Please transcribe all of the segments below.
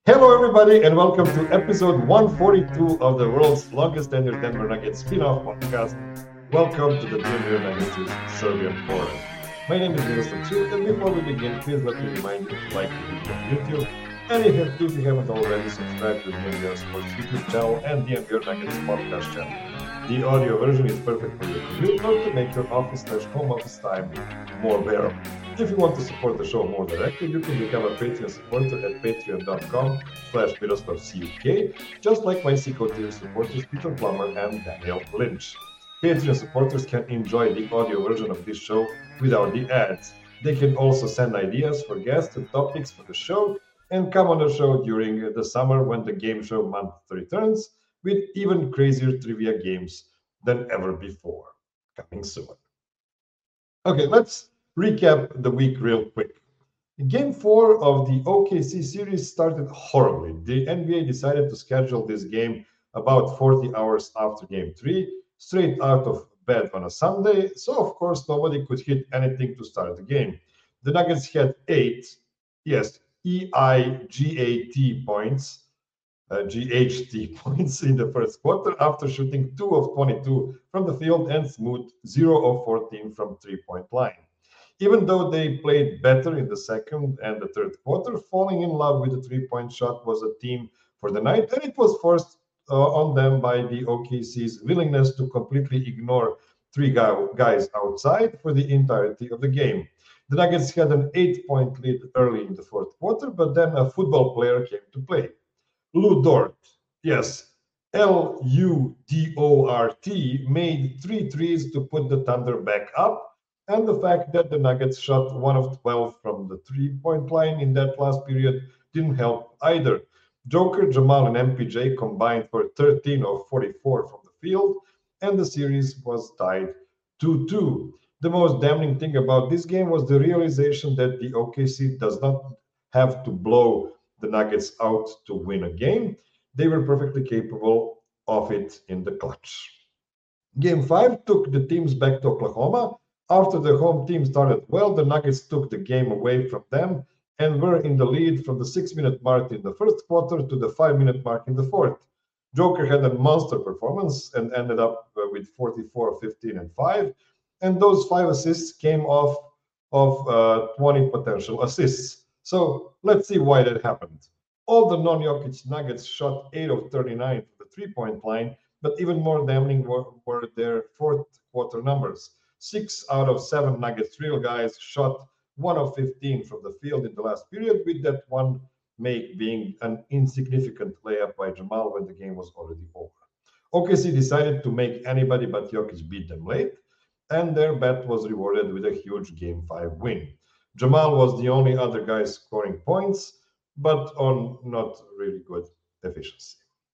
Hello, everybody, and welcome to episode 142 of the world's longest tenured Denver Nuggets spin-off podcast. Welcome to the Denver Nuggets' Serbian Forum. My name is Miroslav Cuk, and before we begin, please let me remind you to like the video on YouTube, and if you haven't already, subscribe to the NBR Sports YouTube channel and the NBR Nuggets podcast channel. The audio version is perfect for your commute or to make your office/home office time more bearable. If you want to support the show more directly, you can become a Patreon supporter at patreon.com/MiroslavCuk, just like my Seco tier supporters Peter Plummer and Daniel Lynch. Patreon supporters can enjoy the audio version of this show without the ads. They can also send ideas for guests and topics for the show and come on the show during the summer when the game show month returns with even crazier trivia games than ever before. Coming soon. Okay, let's recap the week real quick. Game 4 of the OKC series started horribly. The NBA decided to schedule this game about 40 hours after Game 3, straight out of bed on a Sunday, so of course nobody could hit anything to start the game. The Nuggets had 8, yes, EIGAT points, GHT points in the first quarter after shooting 2 of 22 from the field and smooth 0 of 14 from three-point line. Even though they played better in the second and the third quarter, falling in love with the three-point shot was a theme for the night, and it was forced on them by the OKC's willingness to completely ignore three guys outside for the entirety of the game. The Nuggets had an 8-point lead early in the fourth quarter, but then a football player came to play. Lu Dort, yes, Ludort, made three threes to put the Thunder back up, and the fact that the Nuggets shot 1 of 12 from the three-point line in that last period didn't help either. Joker, Jamal, and MPJ combined for 13 of 44 from the field, and the series was tied 2-2. The most damning thing about this game was the realization that the OKC does not have to blow the Nuggets out to win a game. They were perfectly capable of it in the clutch. Game 5 took the teams back to Oklahoma. After the home team started well, the Nuggets took the game away from them and were in the lead from the 6-minute mark in the first quarter to the 5-minute mark in the fourth. Joker had a monster performance and ended up with 44, 15, and 5. And those 5 assists came off of 20 potential assists. So let's see why that happened. All the non-Jokic Nuggets shot 8 of 39 from the three-point line, but even more damning were their fourth quarter numbers. 6 out of 7 Nuggets real guys shot 1 of 15 from the field in the last period, with that one make being an insignificant layup by Jamal when the game was already over. OKC decided to make anybody but Jokic beat them late, and their bet was rewarded with a huge Game 5 win. Jamal was the only other guy scoring points, but on not really good efficiency.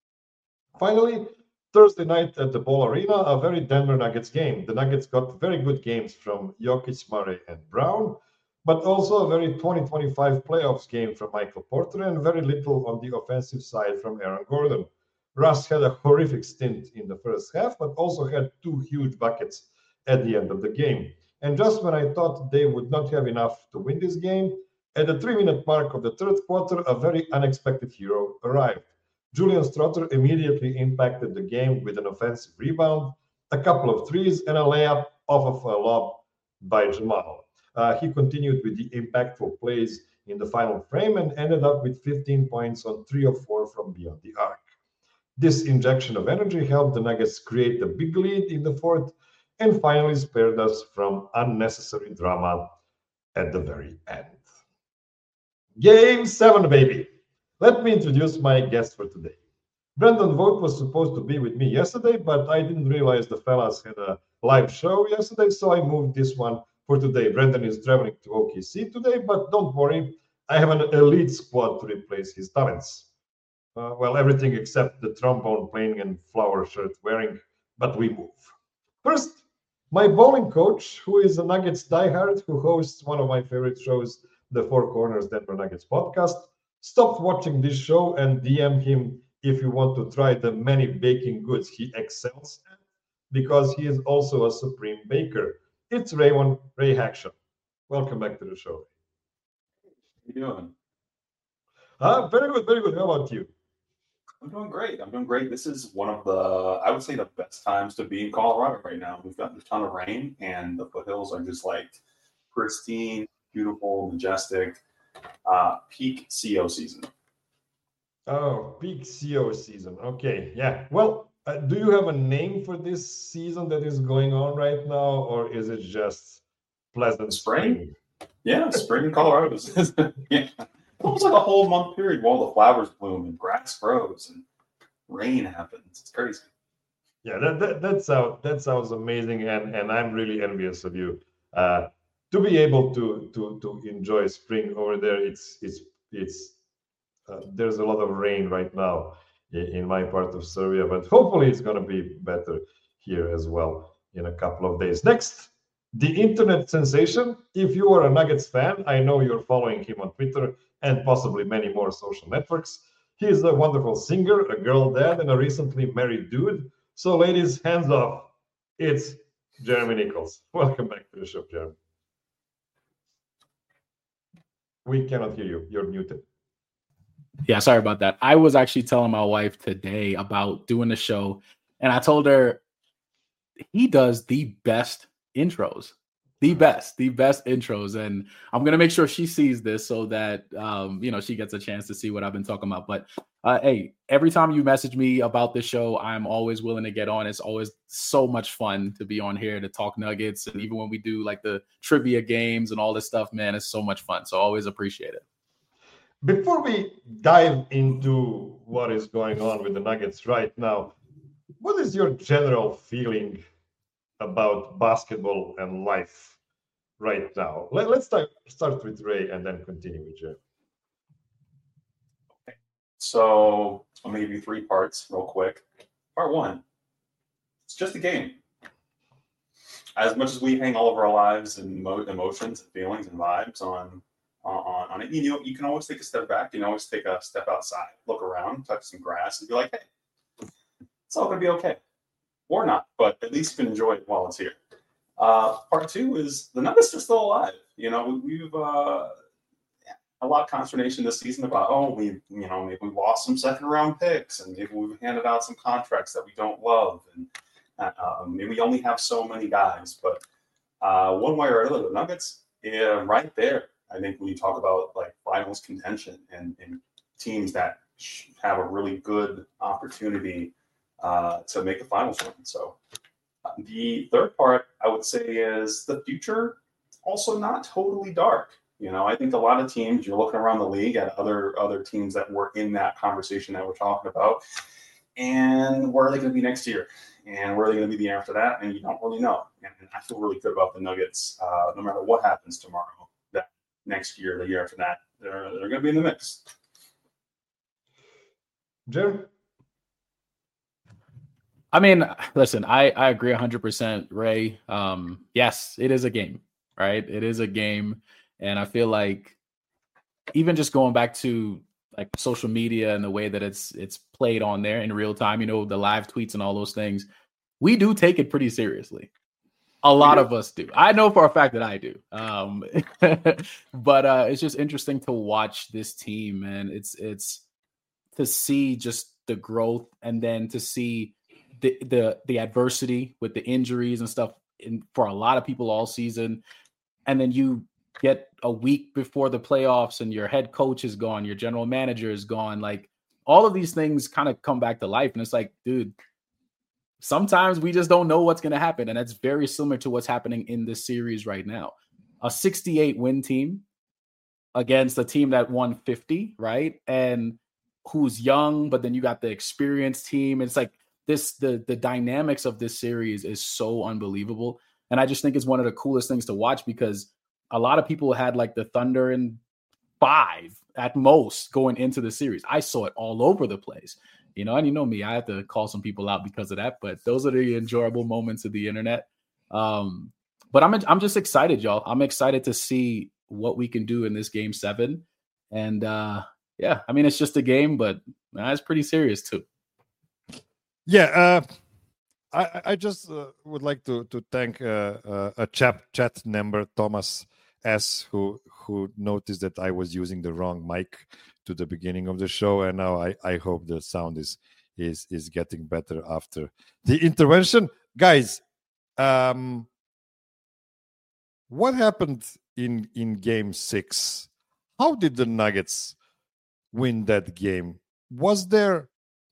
Finally, Thursday night at the Ball Arena, a very Denver Nuggets game. The Nuggets got very good games from Jokic, Murray, and Brown, but also a very 2025 playoffs game from Michael Porter and very little on the offensive side from Aaron Gordon. Russ had a horrific stint in the first half, but also had 2 huge buckets at the end of the game. And just when I thought they would not have enough to win this game, at the 3-minute mark of the third quarter, a very unexpected hero arrived. Julian Strother immediately impacted the game with an offensive rebound, a couple of threes, and a layup off of a lob by Jamal. He continued with the impactful plays in the final frame and ended up with 15 points on 3 of 4 from beyond the arc. This injection of energy helped the Nuggets create a big lead in the fourth and finally spared us from unnecessary drama at the very end. Game 7, baby. Let me introduce my guest for today. Brendan Vogt was supposed to be with me yesterday, but I didn't realize the fellas had a live show yesterday, so I moved this one for today. Brendan is traveling to OKC today, but don't worry, I have an elite squad to replace his talents. Well, everything except the trombone playing and flower shirt wearing, but we move. First, my bowling coach, who is a Nuggets diehard, who hosts one of my favorite shows, the Four Corners Denver Nuggets podcast, stopped watching this show and DM him if you want to try the many baking goods he excels at, because he is also a supreme baker. It's Ray Hacksham. Welcome back to the show. How you doing? Very good, very good. How about you? I'm doing great. I'm doing great. This is one of the, I would say, the best times to be in Colorado right now. We've got a ton of rain, and the foothills are just like pristine, beautiful, majestic, peak CO season. Oh, peak CO season. Okay, yeah. Well, do you have a name for this season that is going on right now, or is it just pleasant Spring? spring? Yeah, spring in Colorado. Yeah. Almost like a whole month period while the flowers bloom and grass grows and rain happens. It's crazy. Yeah, that sounds amazing, and I'm really envious of you. To be able to enjoy spring over there, it's there's a lot of rain right now in my part of Serbia, but hopefully it's going to be better here as well in a couple of days. Next, the internet sensation. If you are a Nuggets fan, I know you're following him on Twitter and possibly many more social networks. He's a wonderful singer, a girl dad, and a recently married dude. So, ladies, hands off. It's Jeremy Nichols. Welcome back to the show, Jeremy. We cannot hear you. You're muted. Yeah, sorry about that. I was actually telling my wife today about doing the show, and I told her he does the best intros, the best intros. And I'm going to make sure she sees this so that, she gets a chance to see what I've been talking about. But hey, every time you message me about this show, I'm always willing to get on. It's always so much fun to be on here to talk Nuggets. And even when we do like the trivia games and all this stuff, man, it's so much fun. So always appreciate it. Before we dive into what is going on with the Nuggets right now, what is your general feeling about basketball and life right now? Let's start with Ray and then continue with Jeff. Okay. So I'm going to give you 3 parts real quick. Part 1, it's just a game. As much as we hang all of our lives and emotions and feelings and vibes on it, you can always take a step back. You can always take a step outside, look around, touch some grass, and be like, hey, it's all going to be okay. Or not, but at least you can enjoy it while it's here. Part 2 is the Nuggets are still alive. We've a lot of consternation this season about, maybe we lost some second round picks, and maybe we've handed out some contracts that we don't love, and maybe we only have so many guys. But one way or another, the Nuggets, right there. I think when you talk about like finals contention and teams that have a really good opportunity to make a finals run. So the third part I would say is the future also not totally dark. I think a lot of teams, you're looking around the league at other teams that were in that conversation that we're talking about, and where are they going to be next year? And where are they going to be the year after that? And you don't really know. And I feel really good about the Nuggets, no matter what happens tomorrow, that next year, the year after that, they're going to be in the mix. Jerry? I mean, listen, I agree 100%, Ray. Yes, it is a game, right? It is a game. And I feel like even just going back to like social media and the way that it's played on there in real time, the live tweets and all those things, we do take it pretty seriously. A lot of us do. I know for a fact that I do. But it's just interesting to watch this team, and it's to see just the growth, and then to see the adversity with the injuries and stuff for a lot of people all season. And then you get a week before the playoffs and your head coach is gone, your general manager is gone. Like all of these things kind of come back to life. And it's like, dude, sometimes we just don't know what's going to happen. And that's very similar to what's happening in this series right now. A 68 win team against a team that won 50, right? And who's young, but then you got the experienced team. It's like the dynamics of this series is so unbelievable. And I just think it's one of the coolest things to watch, because a lot of people had like the Thunder in 5 at most going into the series. I saw it all over the place, and me, I have to call some people out because of that, but those are the enjoyable moments of the internet. But I'm just excited, y'all. I'm excited to see what we can do in this game 7. And yeah, I mean, it's just a game, but it's pretty serious too. Yeah. I just would like to thank a chat member, Thomas S who noticed that I was using the wrong mic to the beginning of the show, and now I hope the sound is getting better after the intervention. Guys, what happened in game 6? How did the Nuggets win that game? Was there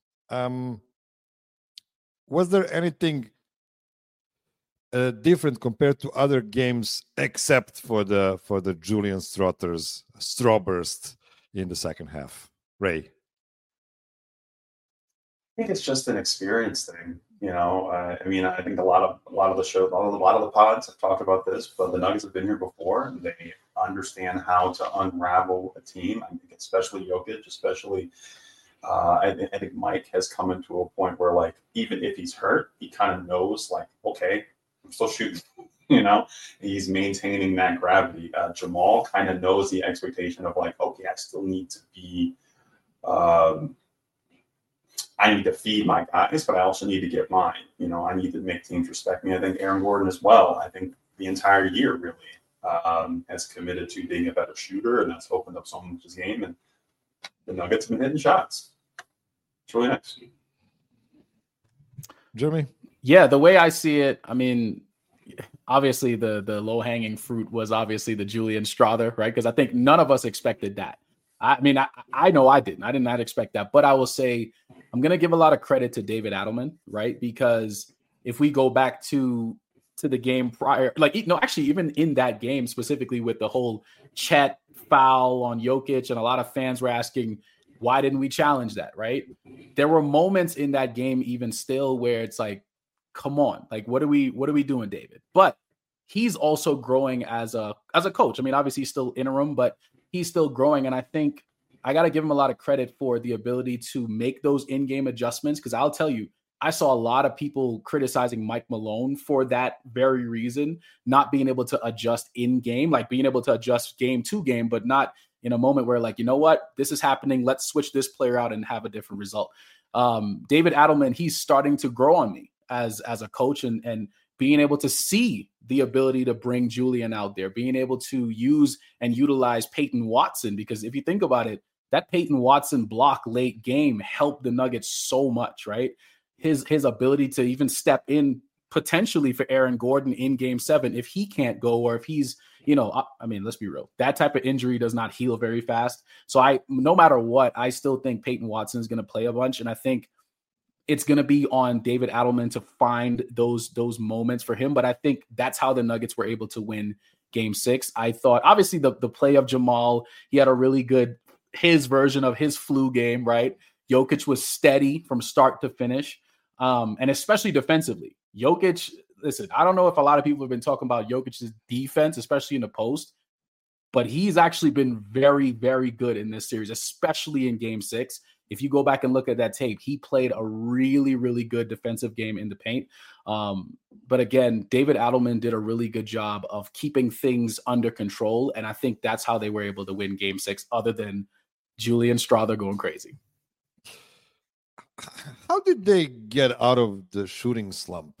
anything different compared to other games except for the Julian Strawburst in the second half? Ray? I think it's just an experience thing. I think a lot of the shows, a lot of the pods have talked about this, but the Nuggets have been here before, and they understand how to unravel a team. I think especially Jokic, I think Mike has come into a point where, like, even if he's hurt, he kind of knows, like, okay, I'm still shooting. He's maintaining that gravity. Jamal kind of knows the expectation of, like, okay, I still need to be. I need to feed my guys, but I also need to get mine. I need to make teams respect me. I think Aaron Gordon as well. I think the entire year really has committed to being a better shooter, and that's opened up so much his game. And the Nuggets have been hitting shots. It's really nice. Jeremy? Yeah, the way I see it, I mean, obviously the low-hanging fruit was obviously the Julian Strawther, right? Because I think none of us expected that. I know I didn't. I did not expect that. But I will say I'm going to give a lot of credit to David Adelman, right? Because if we go back to the game prior, even in that game specifically with the whole Chet foul on Jokic, and a lot of fans were asking, why didn't we challenge that, right? There were moments in that game even still where it's like, come on, like, what are we doing, David? But he's also growing as a coach. I mean, obviously he's still interim, but he's still growing. And I think I got to give him a lot of credit for the ability to make those in-game adjustments. Because I'll tell you, I saw a lot of people criticizing Mike Malone for that very reason, not being able to adjust in-game, like being able to adjust game to game, but not in a moment where, like, you know what, this is happening, let's switch this player out and have a different result. David Adelman, he's starting to grow on me as a coach, and being able to see the ability to bring Julian out there, being able to use and utilize Peyton Watson, because if you think about it, that Peyton Watson block late game helped the Nuggets so much, right? His ability to even step in potentially for Aaron Gordon in game 7 if he can't go, or if he's, I mean, let's be real, that type of injury does not heal very fast. So no matter what, I still think Peyton Watson is going to play a bunch, and I think it's going to be on David Adelman to find those moments for him. But I think that's how the Nuggets were able to win game 6. I thought, obviously, the play of Jamal, he had a really good, his version of his flu game, right? Jokic was steady from start to finish, and especially defensively. Jokic, listen, I don't know if a lot of people have been talking about Jokic's defense, especially in the post, but he's actually been very, very good in this series, especially in game 6. If you go back and look at that tape, he played a really, really good defensive game in the paint. But again, David Adelman did a really good job of keeping things under control. And I think that's how they were able to win game 6, other than Julian Strawther going crazy. How did they get out of the shooting slump?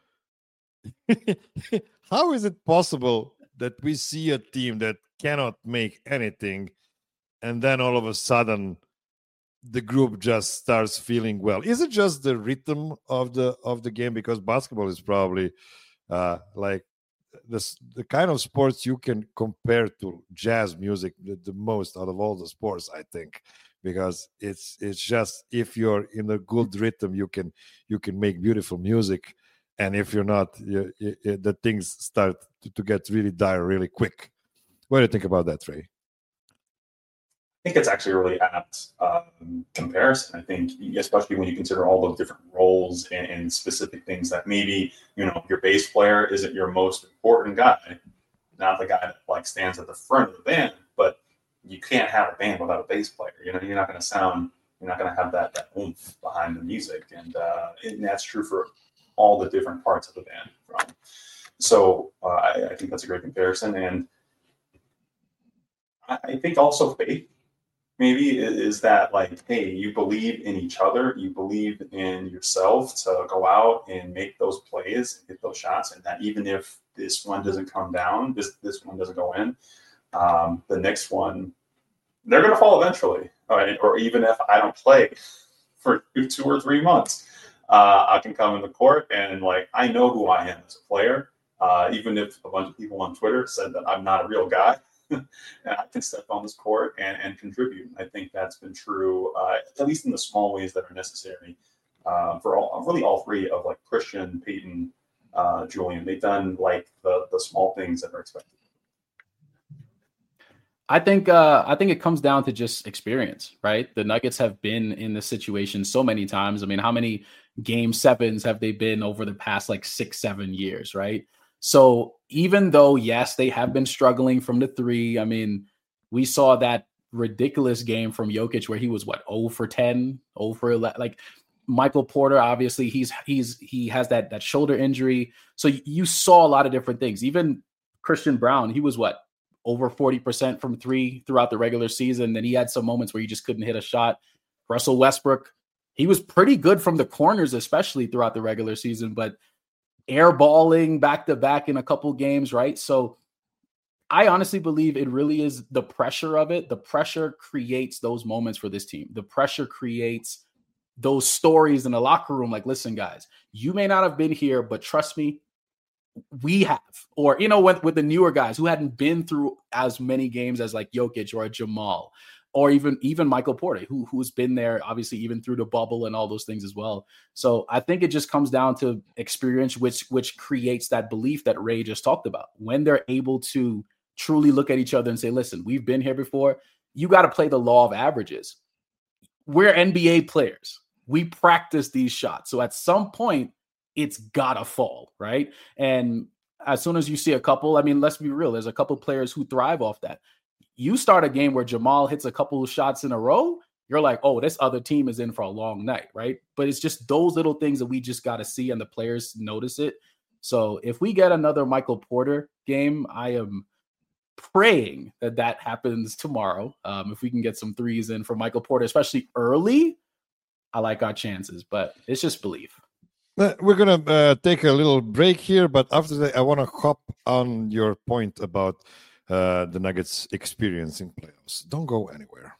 How is it possible that we see a team that cannot make anything, and then all of a sudden the group just starts feeling well? Is it just the rhythm of the game? Because basketball is probably like the kind of sports you can compare to jazz music the most out of all the sports, I think, because it's just, if you're in a good rhythm, you can make beautiful music, and if you're not, the things start to get really dire really quick. What do you think about that, Ray? I think it's actually a really apt comparison. I think, especially when you consider all those different roles and specific things that maybe, your bass player isn't your most important guy, not the guy that like stands at the front of the band, but you can't have a band without a bass player. You're not going to have that oomph behind the music, and that's true for all the different parts of the band. So I think that's a great comparison, and I think also faith. Maybe is that, like, hey, you believe in each other, you believe in yourself to go out and make those plays, hit those shots, and that even if this one doesn't come down, this one doesn't go in, the next one, they're going to fall eventually. Or even if I don't play for 2 or 3 months, I can come in the court and like I know who I am as a player. Even if a bunch of people on Twitter said that I'm not a real guy, I can step on this court and contribute. I think that's been true, at least in the small ways that are necessary for all three of like Christian, Peyton, Julian. They've done like the small things that are expected. I think it comes down to just experience, right? The Nuggets have been in this situation so many times. I mean, how many game sevens have they been over the past like 6-7 years, right? So even though, yes, they have been struggling from the three, I mean, we saw that ridiculous game from Jokic where he was 0 for 10, 0 for 11. Like Michael Porter, obviously he has that shoulder injury. So you saw a lot of different things. Even Christian Brown, he was over 40% from three throughout the regular season. Then he had some moments where he just couldn't hit a shot. Russell Westbrook, he was pretty good from the corners, especially throughout the regular season, but airballing back-to-back in a couple games, right? So I honestly believe it really is the pressure of it. The pressure creates those moments for this team. The pressure creates those stories in the locker room. Like, listen, guys, you may not have been here, but trust me, we have. Or, with the newer guys who hadn't been through as many games as like Jokic or a Jamal, or even Michael Porter, who's been there, obviously, even through the bubble and all those things as well. So I think it just comes down to experience, which creates that belief that Ray just talked about. When they're able to truly look at each other and say, listen, we've been here before. You got to play the law of averages. We're NBA players. We practice these shots. So at some point, it's got to fall, right? And as soon as you see a couple, I mean, let's be real, there's a couple players who thrive off that. You start a game where Jamal hits a couple of shots in a row, you're like, oh, this other team is in for a long night, right? But it's just those little things that we just got to see and the players notice it. So if we get another Michael Porter game, I am praying that happens tomorrow. If we can get some threes in for Michael Porter, especially early, I like our chances, but it's just belief. We're going to take a little break here, but after that, I want to hop on your point about the Nuggets experience in playoffs. Don't go anywhere.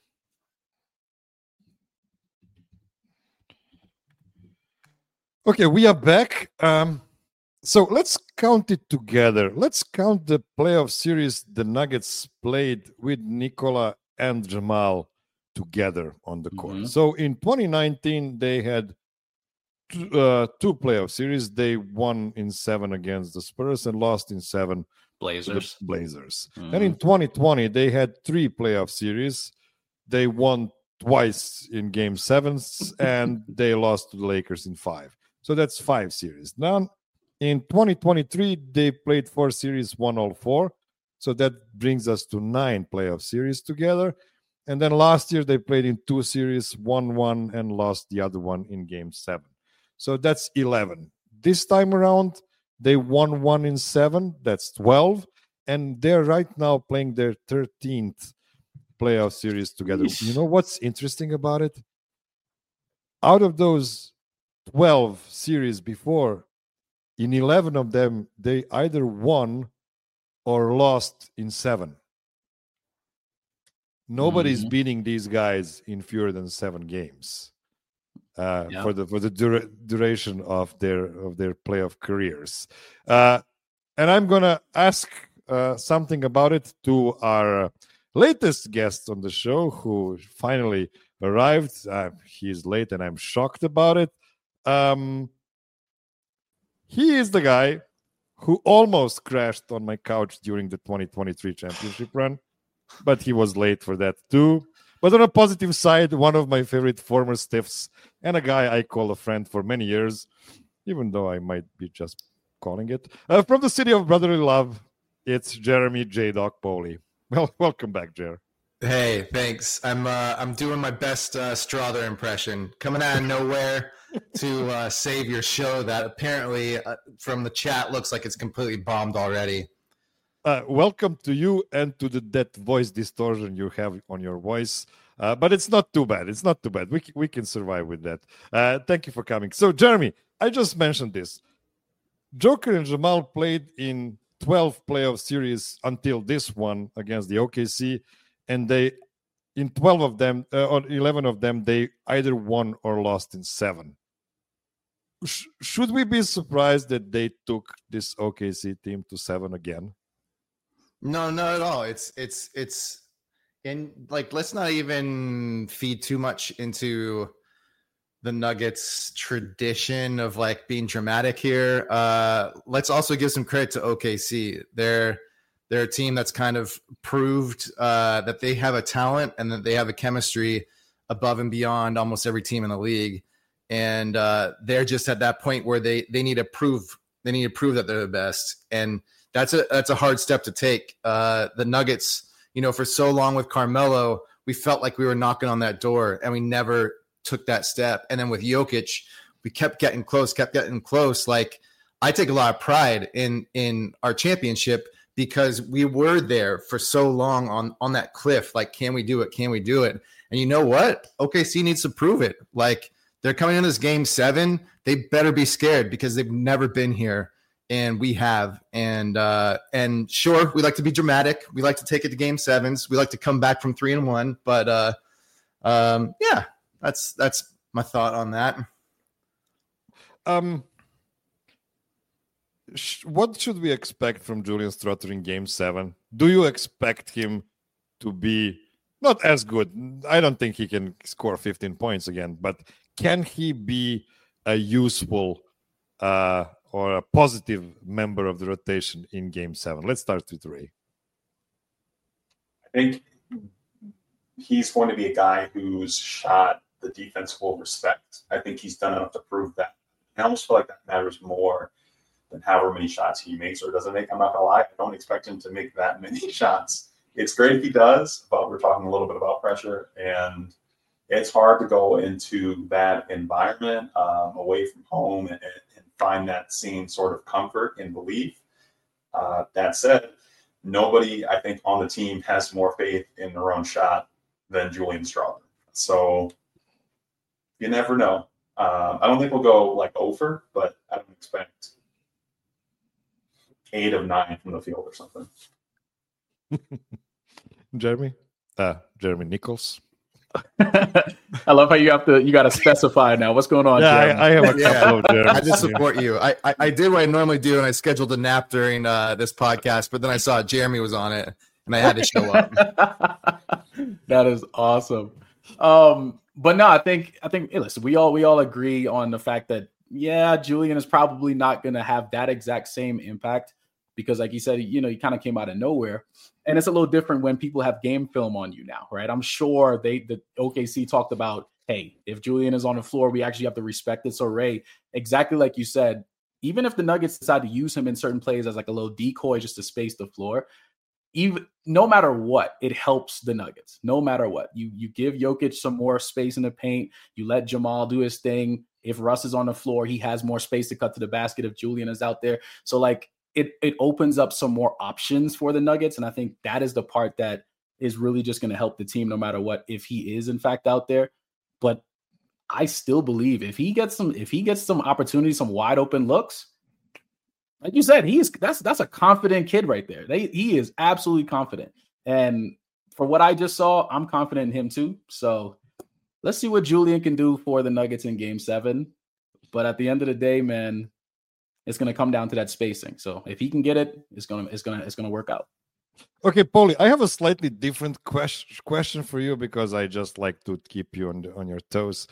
Okay, we are back. So let's count it together. Let's count the playoff series the Nuggets played with Nikola and Jamal together on the court. Mm-hmm. So in 2019, they had two playoff series. They won in 7 against the Spurs and lost in 7 Blazers. The Blazers. Mm-hmm. And in 2020, they had 3 playoff series. They won twice in game 7s and they lost to the Lakers in 5. So that's 5 series. Now, in 2023, they played 4 series, won all 4. So that brings us to 9 playoff series together. And then last year, they played in 2 series, won 1 and lost the other one in game 7. So that's 11. This time around, they won 1 in 7. That's 12. And they're right now playing their 13th playoff series together. Yeesh. You know what's interesting about it? Out of those 12 series before, in 11 of them, they either won or lost in 7. Nobody's beating these guys in fewer than 7 games for the duration of their playoff careers. And I'm gonna ask something about it to our latest guest on the show, who finally arrived. He's late, and I'm shocked about it. He is the guy who almost crashed on my couch during the 2023 championship run, but he was late for that too. But on a positive side, one of my favorite former stiffs and a guy I call a friend for many years, even though I might be just calling it. From the city of brotherly love, it's Jeremy J-Dog Poley. Well, welcome back, Jer. Hey, thanks. I'm doing my best Strother impression, coming out of nowhere to save your show that apparently from the chat looks like it's completely bombed already. Welcome to you and to that voice distortion you have on your voice. But it's not too bad. It's not too bad. We can survive with that. Thank you for coming. So, Jeremy, I just mentioned this. Joker and Jamal played in 12 playoff series until this one against the OKC, and they, in 12 of them or 11 of them, they either won or lost in 7. Should we be surprised that they took this OKC team to 7 again? No, not at all. It's and like, let's not even feed too much into the Nuggets tradition of like being dramatic here. Let's also give some credit to OKC. They're a team that's kind of proved that they have a talent and that they have a chemistry above and beyond almost every team in the league. And they're just at that point where they need to prove that they're the best. And that's a hard step to take. The Nuggets, for so long with Carmelo, we felt like we were knocking on that door and we never took that step. And then with Jokic, we kept getting close. Like, I take a lot of pride in our championship because we were there for so long on that cliff. Like, can we do it? Can we do it? And you know what? OKC needs to prove it. Like, they're coming in this game 7. They better be scared because they've never been here, and we have. And sure, we like to be dramatic. We like to take it to game 7s. We like to come back from 3-1. But yeah, that's my thought on that. What should we expect from Julian Stroughter in game 7? Do you expect him to be not as good? I don't think he can score 15 points again, but can he be a useful or a positive member of the rotation in game 7? Let's start with Ray. I think he's going to be a guy whose shot the defense will respect. I think he's done enough to prove that. I almost feel like that matters more than however many shots he makes or doesn't make. I'm not gonna lie, I don't expect him to make that many shots. It's great if he does, but we're talking a little bit about pressure, and it's hard to go into that environment away from home and find that same sort of comfort and belief. That said, nobody, I think, on the team has more faith in their own shot than Julian Stroughter. So you never know. I don't think we'll go like over, but I don't expect 8 of 9 from the field or something. Jeremy Nichols. I love how you got to specify now. What's going on? Yeah, I have a couple of Jeremy. I just support you. I did what I normally do, and I scheduled a nap during this podcast, but then I saw Jeremy was on it, and I had to show up. That is awesome. But no, I think hey, listen, we all agree on the fact that Julian is probably not going to have that exact same impact because, like you said, he kind of came out of nowhere. And it's a little different when people have game film on you now, right? I'm sure the OKC talked about, hey, if Julian is on the floor, we actually have to respect it. So, Ray, exactly like you said, even if the Nuggets decide to use him in certain plays as like a little decoy just to space the floor, no matter what, it helps the Nuggets. No matter what. You give Jokic some more space in the paint. You let Jamal do his thing. If Russ is on the floor, he has more space to cut to the basket if Julian is out there. So, like, it opens up some more options for the Nuggets. And I think that is the part that is really just going to help the team no matter what, if he is in fact out there. But I still believe if he gets some opportunities, some wide open looks, like you said, that's a confident kid right there. He is absolutely confident. And for what I just saw, I'm confident in him too. So let's see what Julian can do for the Nuggets in game 7. But at the end of the day, man, it's going to come down to that spacing. So if he can get it, it's going to work out. Okay, Paulie, I have a slightly different question for you because I just like to keep you on your toes.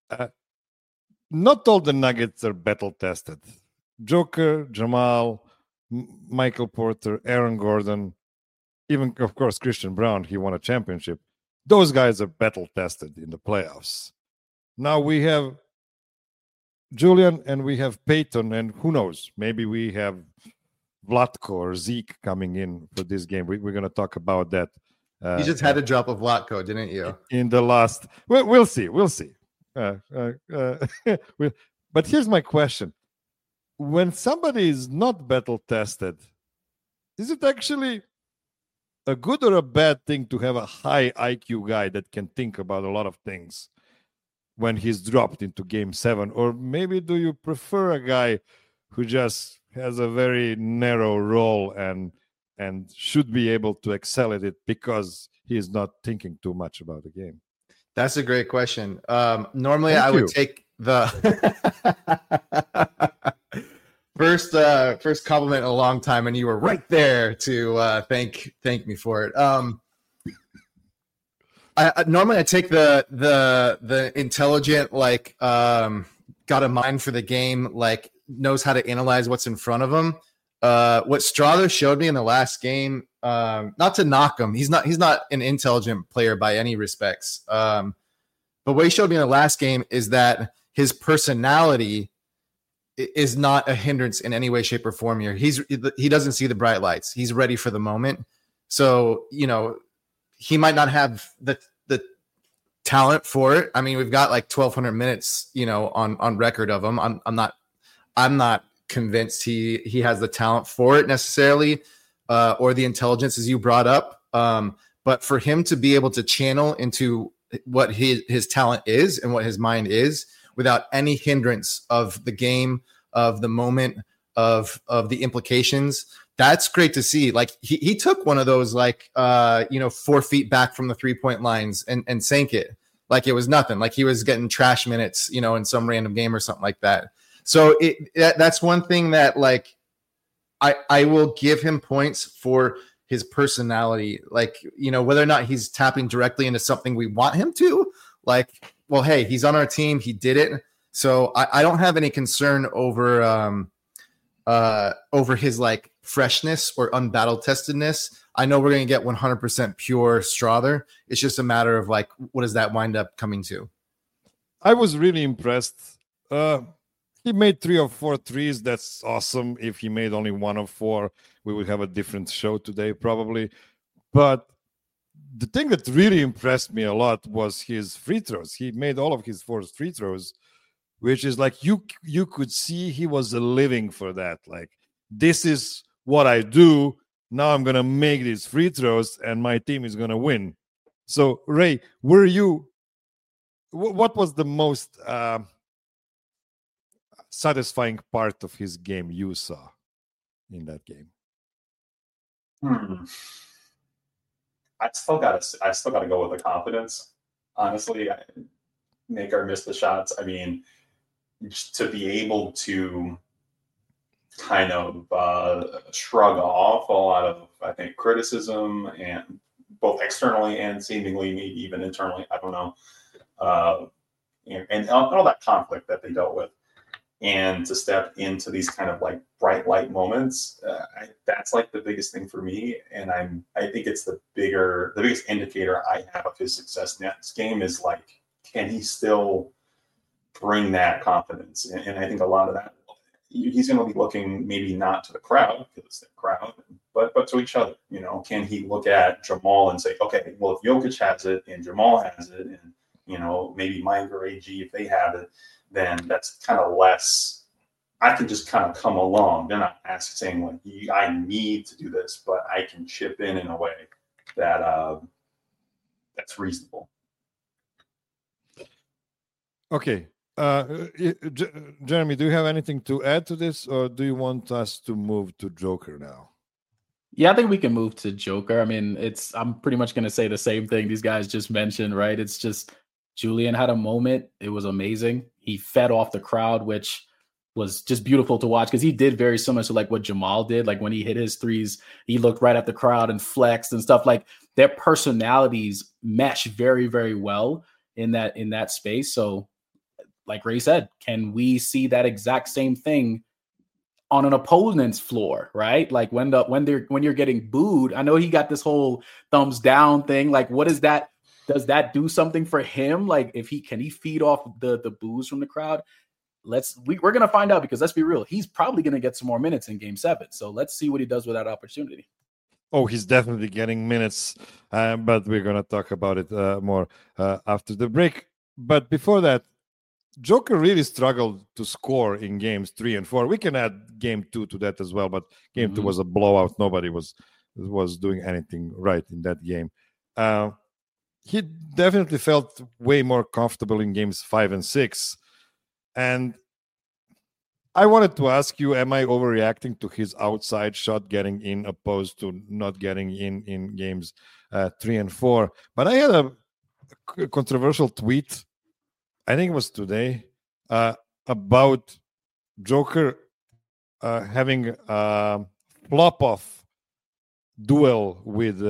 Not all the Nuggets are battle tested. Joker, Jamal, Michael Porter, Aaron Gordon, even, of course, Christian Braun, he won a championship. Those guys are battle tested in the playoffs. Now we have Julian and we have Peyton, and who knows, maybe we have Vlatko or Zeke coming in for this game. We're going to talk about that. You just had to drop a Vlatko, didn't you? In the last, we'll see. But here's my question. When somebody is not battle tested, is it actually a good or a bad thing to have a high IQ guy that can think about a lot of things when he's dropped into game 7? Or maybe do you prefer a guy who just has a very narrow role and should be able to excel at it because he is not thinking too much about the game. That's a great question. Normally, Thank I would you. take the first compliment in a long time, and you were right there to thank me for it. Normally I take the intelligent, like got a mind for the game, like knows how to analyze what's in front of him. What Strother showed me in the last game, not to knock him, he's not an intelligent player by any respects. But what he showed me in the last game is that his personality is not a hindrance in any way, shape, or form here. He doesn't see the bright lights. He's ready for the moment. So, he might not have the talent for it. I mean, we've got like 1,200 minutes, on record of him. I'm not convinced he has the talent for it necessarily, or the intelligence, as you brought up. But for him to be able to channel into what his talent is and what his mind is without any hindrance of the game, of the moment, of the implications, that's great to see. Like he took one of those, 4 feet back from the 3-point lines and sank it like it was nothing. Like he was getting trash minutes, in some random game or something like that. So that's one thing that I will give him points for his personality. Whether or not he's tapping directly into something we want him to, well, hey, he's on our team. He did it. So I don't have any concern over his freshness or unbattle testedness. I know we're going to get 100% pure Strother. It's just a matter of what does that wind up coming to? I was really impressed. He made 3 or 4 threes. That's awesome. If he made only 1 of 4, we would have a different show today probably. But the thing that really impressed me a lot was his free throws. He made all of his 4 free throws, which is you could see he was living for that. This is what I do. Now I'm going to make these free throws and my team is going to win. So, Ray, what was the most satisfying part of his game you saw in that game? I still gotta go with the confidence. Honestly, make or miss the shots. I mean, just to be able to kind of shrug off a lot of, I think, criticism, and both externally and seemingly maybe even internally. I don't know, and all that conflict that they dealt with, and to step into these kind of bright light moments, that's the biggest thing for me. And I think it's the biggest indicator I have of his success next game is can he still bring that confidence? And I think a lot of that, he's going to be looking maybe not to the crowd, because it's the crowd, but to each other. Can he look at Jamal and say, okay, well, if Jokic has it and Jamal has it, and maybe Mike or AG, if they have it, then that's kind of less. I can just kind of come along. They're not saying I need to do this, but I can chip in a way that that's reasonable. Okay. Jeremy, do you have anything to add to this, or do you want us to move to Joker now? Yeah, I think we can move to Joker. I mean, I'm pretty much going to say the same thing these guys just mentioned, right? It's just Julian had a moment. It was amazing. He fed off the crowd, which was just beautiful to watch, because he did very similar to what Jamal did. When he hit his threes, he looked right at the crowd and flexed and stuff. Their personalities mesh very, very well in that space. So like Ray said, can we see that exact same thing on an opponent's floor, right? When you're getting booed, I know he got this whole thumbs down thing. What is that? Does that do something for him? Can he feed off the boos from the crowd? We're gonna find out, because let's be real, he's probably gonna get some more minutes in Game 7. So let's see what he does with that opportunity. Oh, he's definitely getting minutes, but we're gonna talk about it more after the break. But before that, Joker really struggled to score in games 3 and 4. We can add game 2 to that as well, but game 2 was a blowout. Nobody was doing anything right in that game. He definitely felt way more comfortable in games 5 and 6. And I wanted to ask you, am I overreacting to his outside shot getting in opposed to not getting in games 3 and 4? But I had a controversial tweet, I think it was today, about Joker having a flop-off duel with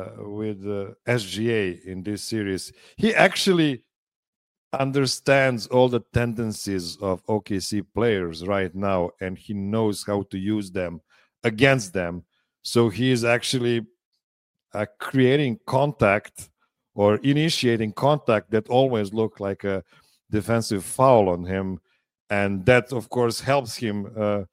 SGA in this series. He actually understands all the tendencies of OKC players right now, and he knows how to use them against them. So he is actually creating contact or initiating contact that always look like a defensive foul on him, and that of course helps him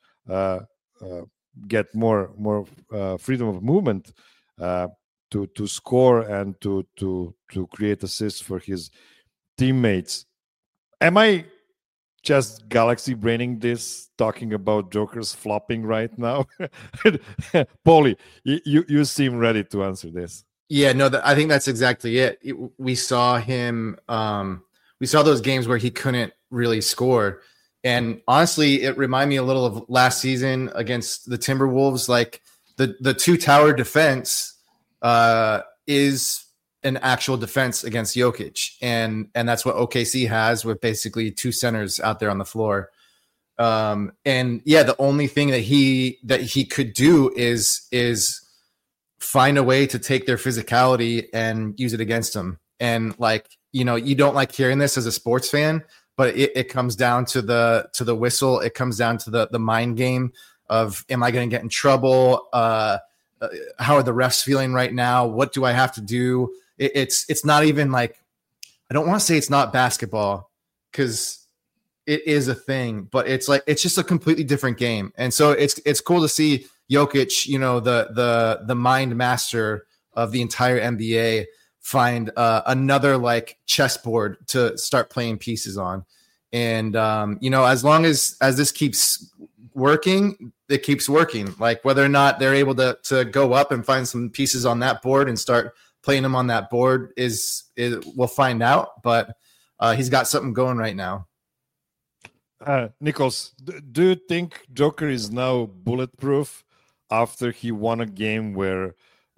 get more freedom of movement to score and to create assists for his teammates. Am I just galaxy braining this, talking about Joker's flopping right now? Paulie, you seem ready to answer this. Yeah, no, I think that's exactly it. We saw him. We saw those games where he couldn't really score, and honestly, it reminded me a little of last season against the Timberwolves. Like the two tower defense is an actual defense against Jokic, and that's what OKC has with basically two centers out there on the floor. And yeah, the only thing that he could do is find a way to take their physicality and use it against them. And like, you know, you don't like hearing this as a sports fan, but it comes down to the whistle. It comes down to the mind game of, am I going to get in trouble? How are the refs feeling right now? What do I have to do? It's not even like, I don't want to say it's not basketball, because it is a thing, but it's like, it's just a completely different game. And so it's cool to see Jokic, you know, the mind master of the entire NBA, find another like chessboard to start playing pieces on. And you know, as long as this keeps working, it keeps working. Like whether or not they're able to go up and find some pieces on that board and start playing them on that board is we'll find out. But he's got something going right now. Nichols, do you think Joker is now bulletproof after he won a game where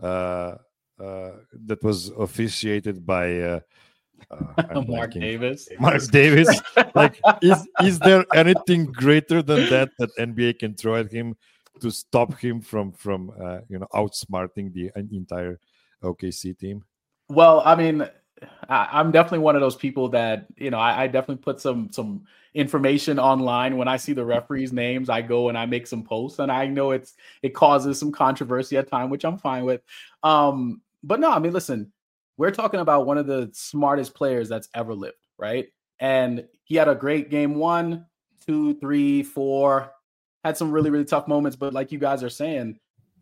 that was officiated by Mark Davis? Mark Davis. Like, is there anything greater than that NBA can throw at him to stop him from outsmarting the entire OKC team? Well, I mean, I'm definitely one of those people that, you know, I definitely put some information online. When I see the referees' names, I go and I make some posts, and I know it causes some controversy at time, which I'm fine with. But no, I mean, listen, we're talking about one of the smartest players that's ever lived, right? And he had a great game 1, 2, 3, 4, had some really, really tough moments. But like you guys are saying,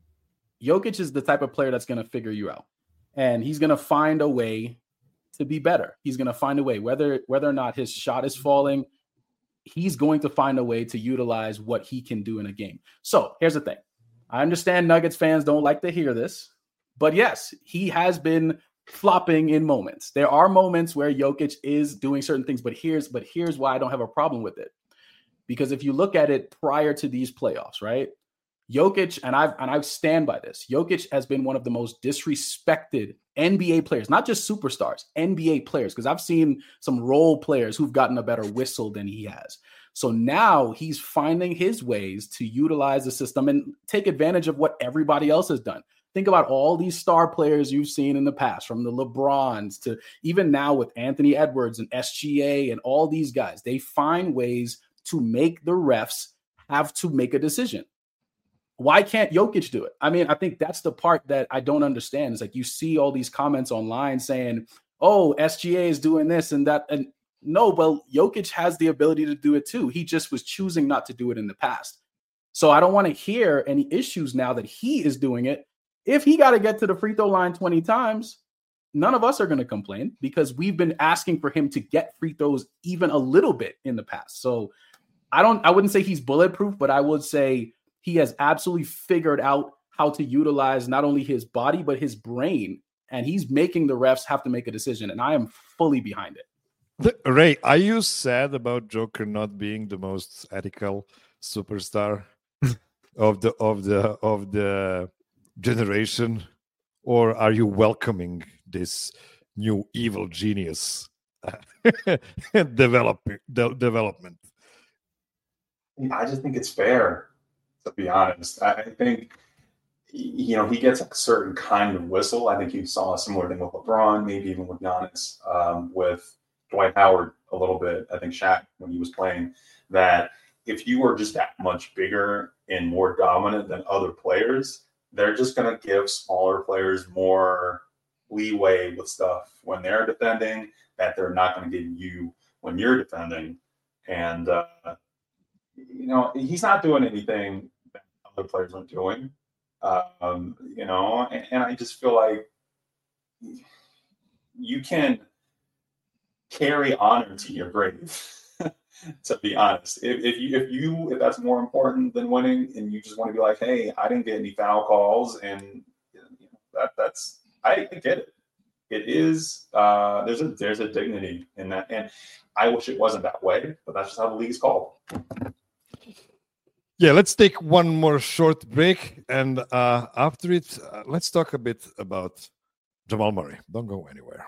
Jokic is the type of player that's going to figure you out, and he's going to find a way to be better. He's going to find a way, whether or not his shot is falling, he's going to find a way to utilize what he can do in a game. So here's the thing. I understand Nuggets fans don't like to hear this, but yes, he has been flopping in moments. There are moments where Jokic is doing certain things, but here's why I don't have a problem with it. Because if you look at it prior to these playoffs, right? Jokic, and I stand by this, Jokic has been one of the most disrespected NBA players, not just superstars, NBA players, because I've seen some role players who've gotten a better whistle than he has. So now he's finding his ways to utilize the system and take advantage of what everybody else has done. Think about all these star players you've seen in the past, from the LeBrons to even now with Anthony Edwards and SGA and all these guys. They find ways to make the refs have to make a decision. Why can't Jokic do it? I mean, I think that's the part that I don't understand. It's like you see all these comments online saying, oh, SGA is doing this and that. And no, well, Jokic has the ability to do it too. He just was choosing not to do it in the past. So I don't want to hear any issues now that he is doing it. If he got to get to the free throw line 20 times, none of us are going to complain, because we've been asking for him to get free throws even a little bit in the past. So I wouldn't say he's bulletproof, but I would say he has absolutely figured out how to utilize not only his body, but his brain. And he's making the refs have to make a decision. And I am fully behind it. Ray, are you sad about Joker not being the most ethical superstar of the generation, or are you welcoming this new evil genius development? I just think it's fair, to be honest. I think, he gets a certain kind of whistle. I think you saw a similar thing with LeBron, maybe even with Giannis, with Dwight Howard a little bit. I think Shaq, when he was playing, that if you are just that much bigger and more dominant than other players, they're just going to give smaller players more leeway with stuff when they're defending that they're not going to give you when you're defending. And, he's not doing anything that other players aren't doing. And I just feel like you can carry honor to your grave. To be honest, if that's more important than winning, and you just want to be like, hey, I didn't get any foul calls, and that's I get it. It is there's a dignity in that, and I wish it wasn't that way, but that's just how the league is called. Yeah, let's take one more short break, and after it, let's talk a bit about Jamal Murray. Don't go anywhere.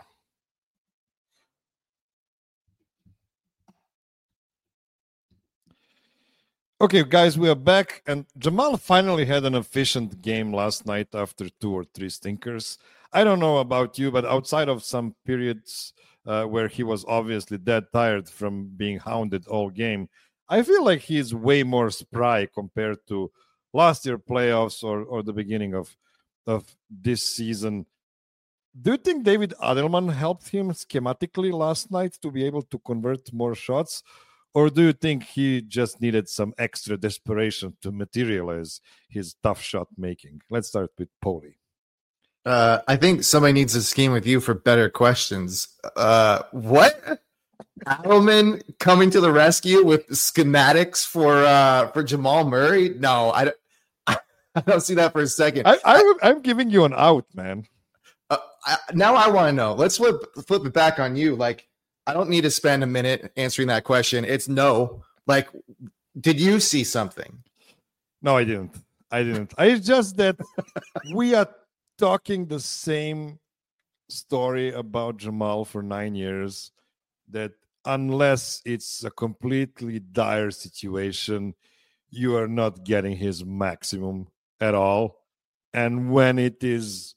Okay, guys, we are back, and Jamal finally had an efficient game last night after 2 or 3 stinkers. I don't know about you, but outside of some periods where he was obviously dead tired from being hounded all game, I feel like he's way more spry compared to last year playoffs or the beginning of this season. Do you think David Adelman helped him schematically last night to be able to convert more shots? Or do you think he just needed some extra desperation to materialize his tough shot making? Let's start with Paulie. I think somebody needs to scheme with you for better questions. What? Adelman coming to the rescue with schematics for Jamal Murray? No, I don't see that for a second. I'm giving you an out, man. Now I want to know. Let's flip it back on you. Like, I don't need to spend a minute answering that question. It's no. Like, did you see something? No, I didn't. It's just that we are talking the same story about Jamal for 9 years, that unless it's a completely dire situation, you are not getting his maximum at all. And when it is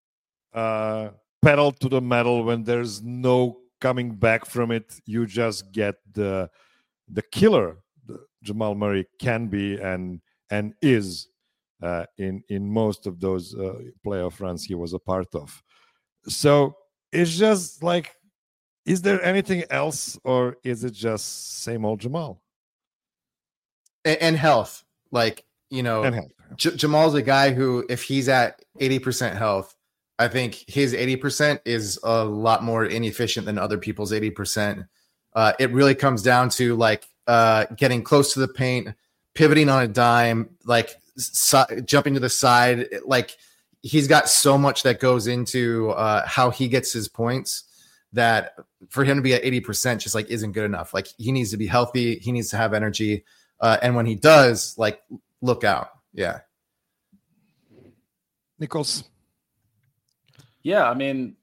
pedal to the metal, when there's no coming back from it, you just get the killer Jamal Murray can be and is in most of those playoff runs he was a part of. So it's just like, is there anything else, or is it just same old Jamal? And health, like, and health. Jamal's a guy who, if he's at 80% health, I think his 80% is a lot more inefficient than other people's 80%. It really comes down to like getting close to the paint, pivoting on a dime, like jumping to the side. Like, he's got so much that goes into how he gets his points that for him to be at 80% just like isn't good enough. Like, he needs to be healthy. He needs to have energy. And when he does, like, look out. Yeah. Nichols. Yeah, I mean,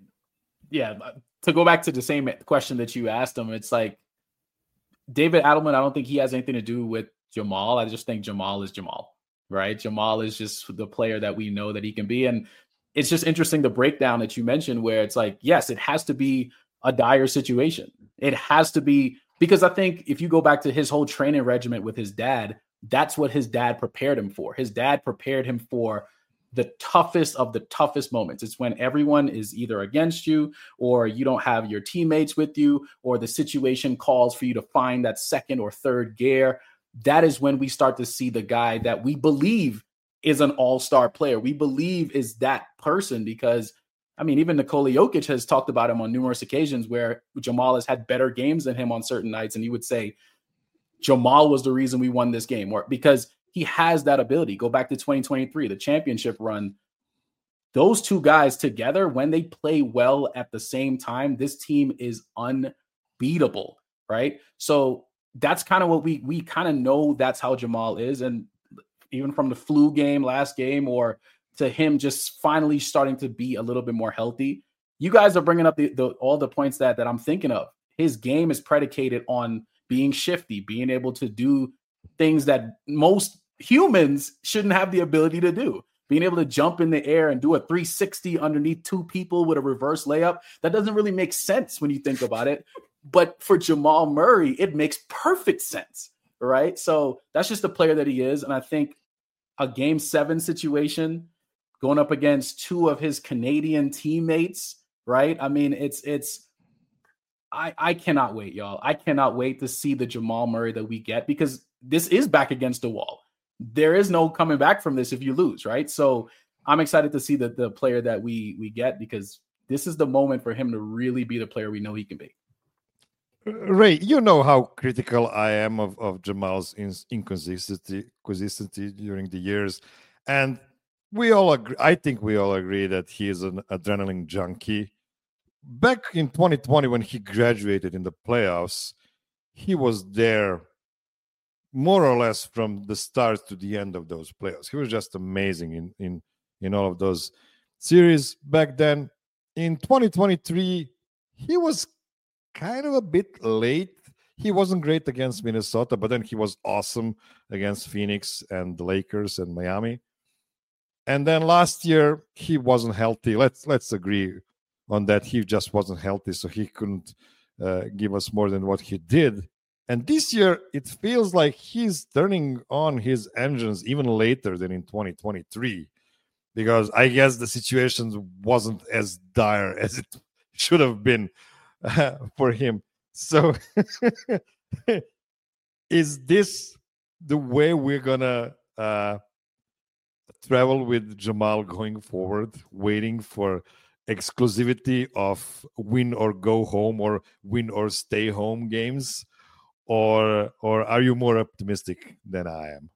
to go back to the same question that you asked him, it's like David Adelman, I don't think he has anything to do with Jamal. I just think Jamal is Jamal, right? Jamal is just the player that we know that he can be. And it's just interesting, the breakdown that you mentioned, where it's like, yes, it has to be a dire situation. It has to be, because I think if you go back to his whole training regimen with his dad, that's what his dad prepared him for. His dad prepared him for the toughest of the toughest moments. It's when everyone is either against you, or you don't have your teammates with you, or the situation calls for you to find that second or third gear. That is when we start to see the guy that we believe is an all-star player. We believe is that person, because, I mean, even Nikola Jokic has talked about him on numerous occasions where Jamal has had better games than him on certain nights. And he would say, Jamal was the reason we won this game, or because he has that ability. Go back to 2023, the championship run. Those two guys together, when they play well at the same time, this team is unbeatable, right? So that's kind of what we kind of know that's how Jamal is. And even from the flu game, last game, or to him just finally starting to be a little bit more healthy, you guys are bringing up all the points that I'm thinking of. His game is predicated on being shifty, being able to do things that most humans shouldn't have the ability to do. Being able to jump in the air and do a 360 underneath two people with a reverse layup, that doesn't really make sense when you think about it. But for Jamal Murray, it makes perfect sense, right? So that's just the player that he is. And I think a Game 7 situation going up against two of his Canadian teammates, right? I mean, I cannot wait, y'all. I cannot wait to see the Jamal Murray that we get, because this is back against the wall. There is no coming back from this if you lose, right? So I'm excited to see the player that we get, because this is the moment for him to really be the player we know he can be. Ray, you know how critical I am of Jamal's inconsistency during the years. And we all agree, I think we all agree that he is an adrenaline junkie. Back in 2020, when he graduated in the playoffs, he was there more or less from the start to the end of those playoffs. He was just amazing in all of those series back then. In 2023, he was kind of a bit late. He wasn't great against Minnesota, but then he was awesome against Phoenix and the Lakers and Miami. And then last year, he wasn't healthy. Let's agree on that. He just wasn't healthy, so he couldn't give us more than what he did. And this year, it feels like he's turning on his engines even later than in 2023, because I guess the situation wasn't as dire as it should have been for him. So is this the way we're going to travel with Jamal going forward, waiting for exclusivity of win or go home or win or stay home games? Or are you more optimistic than I am?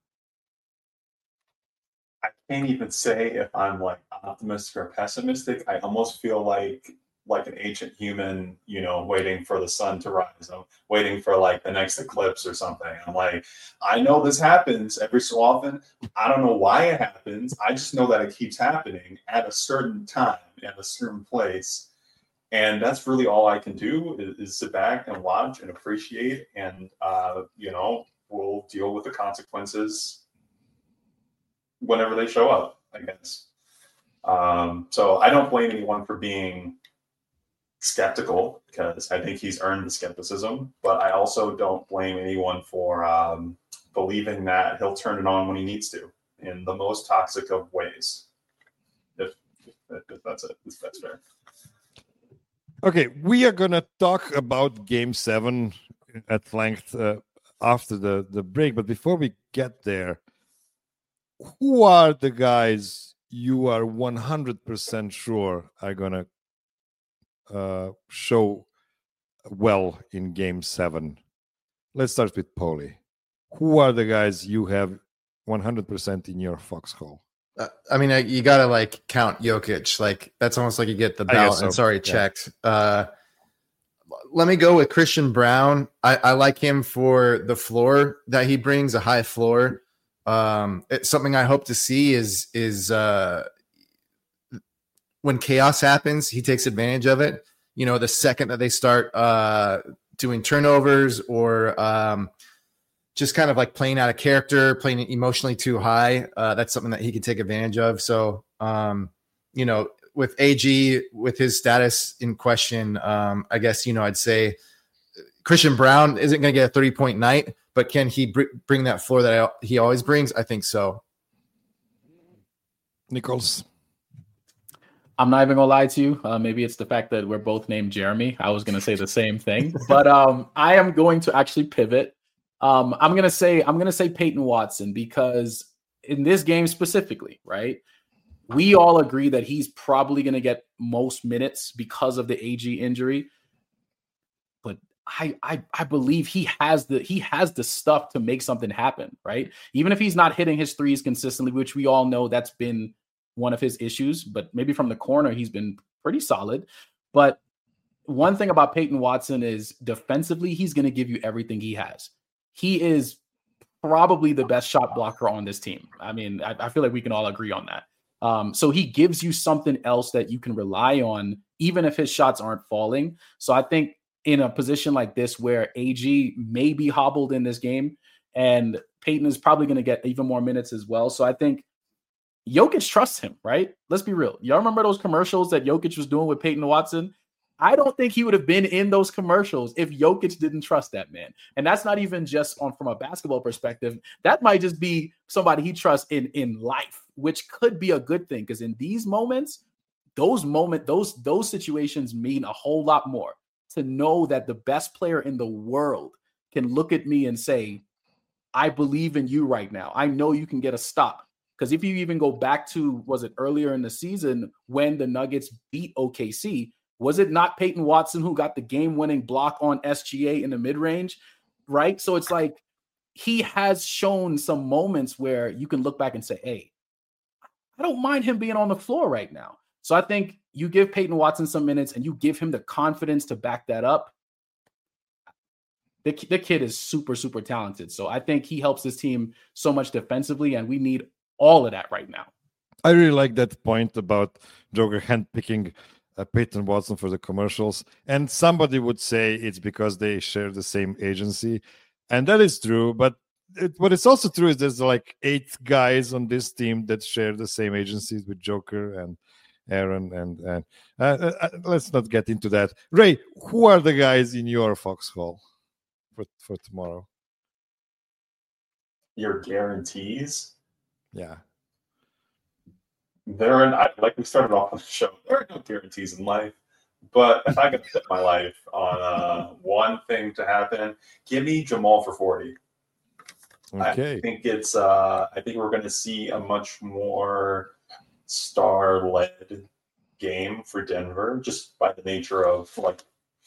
I can't even say if I'm like optimistic or pessimistic. I almost feel like an ancient human, waiting for the sun to rise. I'm waiting for like the next eclipse or something. I'm like, I know this happens every so often. I don't know why it happens. I just know that it keeps happening at a certain time, at a certain place. And that's really all I can do is sit back and watch and appreciate. And, we'll deal with the consequences whenever they show up, I guess. So I don't blame anyone for being skeptical, because I think he's earned the skepticism. But I also don't blame anyone for believing that he'll turn it on when he needs to in the most toxic of ways. If that's it, if that's fair. Okay, we are going to talk about Game 7 at length after the break. But before we get there, who are the guys you are 100% sure are going to show well in Game 7? Let's start with Paulie. Who are the guys you have 100% in your foxhole? I mean, you got to count Jokic. That's almost like you get the belt and sorry, checked. Let me go with Christian Braun. I like him for the floor that he brings, a high floor. It's something I hope to see is when chaos happens, he takes advantage of it. The second that they start doing turnovers or just kind of playing out of character, playing emotionally too high. That's something that he can take advantage of. So, with AG, with his status in question, I guess, I'd say Christian Braun isn't going to get a 30-point night, but can he bring that floor that he always brings? I think so. Nichols. I'm not even gonna lie to you. Maybe it's the fact that we're both named Jeremy. I was gonna say the same thing, but I am going to actually pivot. I'm gonna say Peyton Watson, because in this game specifically, right? We all agree that he's probably gonna get most minutes because of the AG injury. But I believe he has the stuff to make something happen, right? Even if he's not hitting his threes consistently, which we all know that's been one of his issues, but maybe from the corner he's been pretty solid. But one thing about Peyton Watson is defensively, he's going to give you everything he has. he is probably the best shot blocker on this team. I mean, I feel like we can all agree on that. So he gives you something else that you can rely on, even if his shots aren't falling. So I think in a position like this where AG may be hobbled in this game and Peyton is probably going to get even more minutes as well. So I think Jokic trusts him, right? Let's be real. Y'all remember those commercials that Jokic was doing with Peyton Watson? I don't think he would have been in those commercials if Jokic didn't trust that man. And that's not even just from a basketball perspective. That might just be somebody he trusts in life, which could be a good thing, because in these moments, those situations mean a whole lot more. To know that the best player in the world can look at me and say, I believe in you right now. I know you can get a stop. Because if you even go back to, was it earlier in the season when the Nuggets beat OKC, was it not Peyton Watson who got the game-winning block on SGA in the mid-range, right? So it's like he has shown some moments where you can look back and say, hey, I don't mind him being on the floor right now. So I think you give Peyton Watson some minutes and you give him the confidence to back that up. The kid is super, super talented. So I think he helps this team so much defensively, and we need all of that right now. I really like that point about Joker handpicking Peyton Watson for the commercials. And somebody would say it's because they share the same agency. And that is true. But what is also true is there's like 8 guys on this team that share the same agencies with Joker and Aaron. And let's not get into that. Ray, who are the guys in your foxhole for tomorrow? Your guarantees? Yeah. Like we started off on the show, there are no guarantees in life. But if I could set my life on one thing to happen, give me Jamal for 40. Okay. I think we're going to see a much more star-led game for Denver, just by the nature of like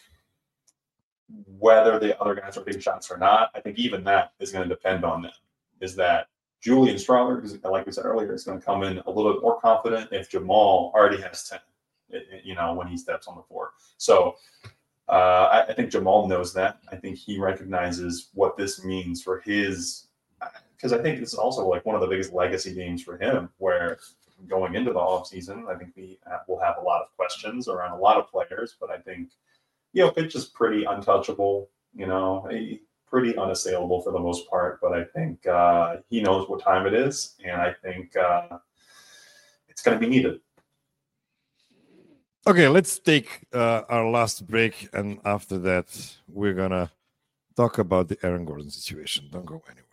whether the other guys are taking shots or not. I think even that is going to depend on them. Is that Julian Strawler, like we said earlier, is going to come in a little bit more confident if Jamal already has 10, when he steps on the floor. So I think Jamal knows that. I think he recognizes what this means for his, because I think it's also like one of the biggest legacy games for him, where going into the offseason, I think we will have a lot of questions around a lot of players, but I think, Pitch is pretty untouchable, pretty unassailable for the most part, but I think he knows what time it is, and I think it's going to be needed. Okay, let's take our last break, and after that, we're going to talk about the Aaron Gordon situation. Don't go anywhere.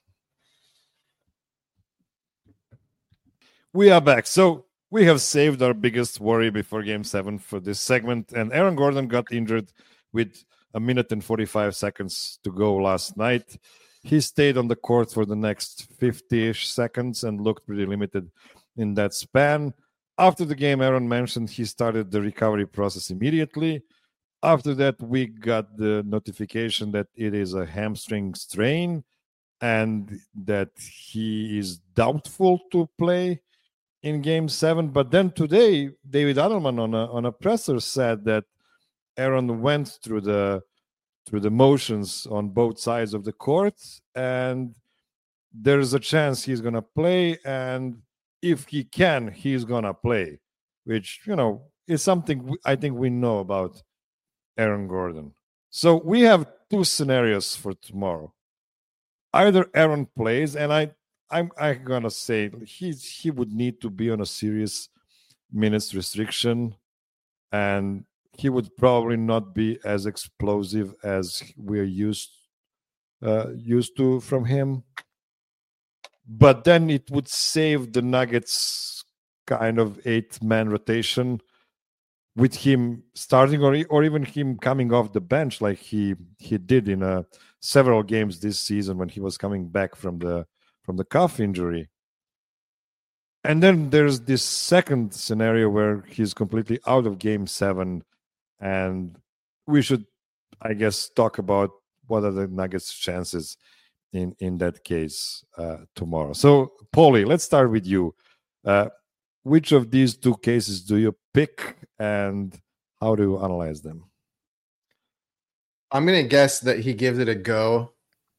We are back. So we have saved our biggest worry before Game 7 for this segment, and Aaron Gordon got injured with 1 minute and 45 seconds to go last night. He stayed on the court for the next 50-ish seconds and looked pretty limited in that span. After the game, Aaron mentioned he started the recovery process immediately. After that, we got the notification that it is a hamstring strain and that he is doubtful to play in Game 7. But then today, David Adelman on a presser said that Aaron went through the motions on both sides of the court, and there's a chance he's going to play, and if he can, he's going to play, which, is something I think we know about Aaron Gordon. So we have 2 scenarios for tomorrow. Either Aaron plays, and I'm going to say he would need to be on a serious minutes restriction, and he would probably not be as explosive as we're used to from him. But then it would save the Nuggets kind of 8-man rotation with him starting or even him coming off the bench like he did in several games this season when he was coming back from the calf injury. And then there's this second scenario where he's completely out of Game 7. And we should, I guess, talk about what are the Nuggets' chances in that case tomorrow. So, Paulie, let's start with you. Which of these 2 cases do you pick, and how do you analyze them? I'm going to guess that he gives it a go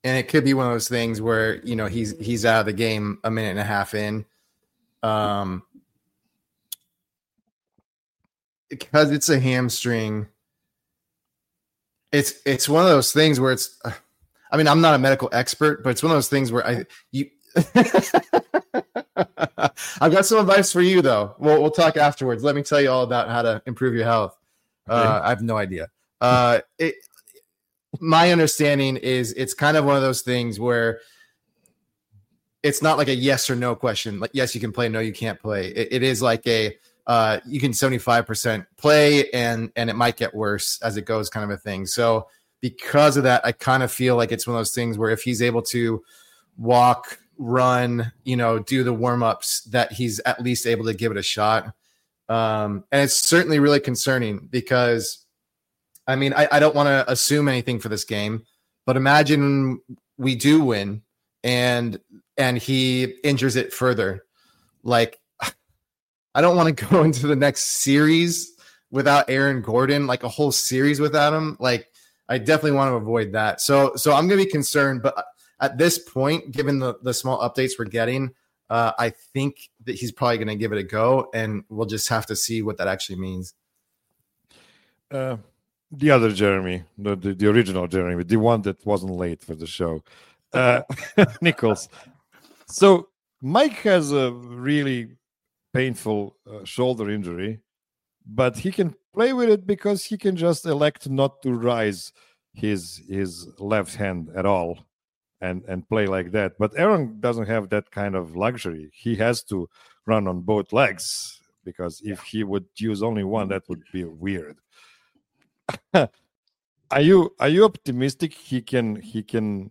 and it could be one of those things where he's out of the game a minute and a half in, because it's a hamstring. It's one of those things where it's. I mean, I'm not a medical expert, but it's one of those things where I've got some advice for you, though. We'll talk afterwards. Let me tell you all about how to improve your health. I have no idea. My understanding is it's kind of one of those things where it's not like a yes or no question. Like, yes, you can play. No, you can't play. It is like a you can 75% play, and it might get worse as it goes, kind of a thing. So because of that, I kind of feel like it's one of those things where if he's able to walk, run, do the warm-ups, that he's at least able to give it a shot. And it's certainly really concerning because, I mean, I don't want to assume anything for this game, but imagine we do win and he injures it further. Like, I don't want to go into the next series without Aaron Gordon, like a whole series without him. Like, I definitely want to avoid that. So I'm going to be concerned, but at this point, given the small updates we're getting, I think that he's probably going to give it a go, and we'll just have to see what that actually means. The other Jeremy, the original Jeremy, the one that wasn't late for the show, Nichols. So Mike has a really painful shoulder injury, but he can play with it because he can just elect not to rise his left hand at all and play like that. But Aaron doesn't have that kind of luxury. He has to run on both legs, because if he would use only one, that would be weird. Are you optimistic he can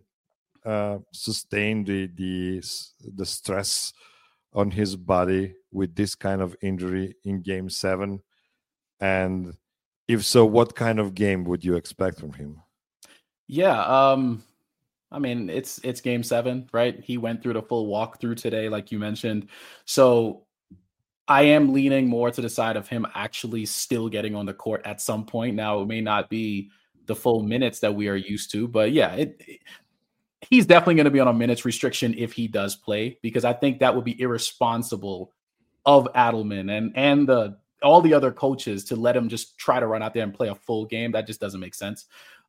sustain the stress on his body with this kind of injury in Game 7? And if so, what kind of game would you expect from him? Yeah, I mean, it's Game 7, right? He went through the full walkthrough today, like you mentioned. So I am leaning more to the side of him actually still getting on the court at some point. Now, it may not be the full minutes that we are used to, but yeah, he's definitely going to be on a minutes restriction if he does play, because I think that would be irresponsible of Adelman and all the other coaches to let him just try to run out there and play a full game. That just doesn't make sense.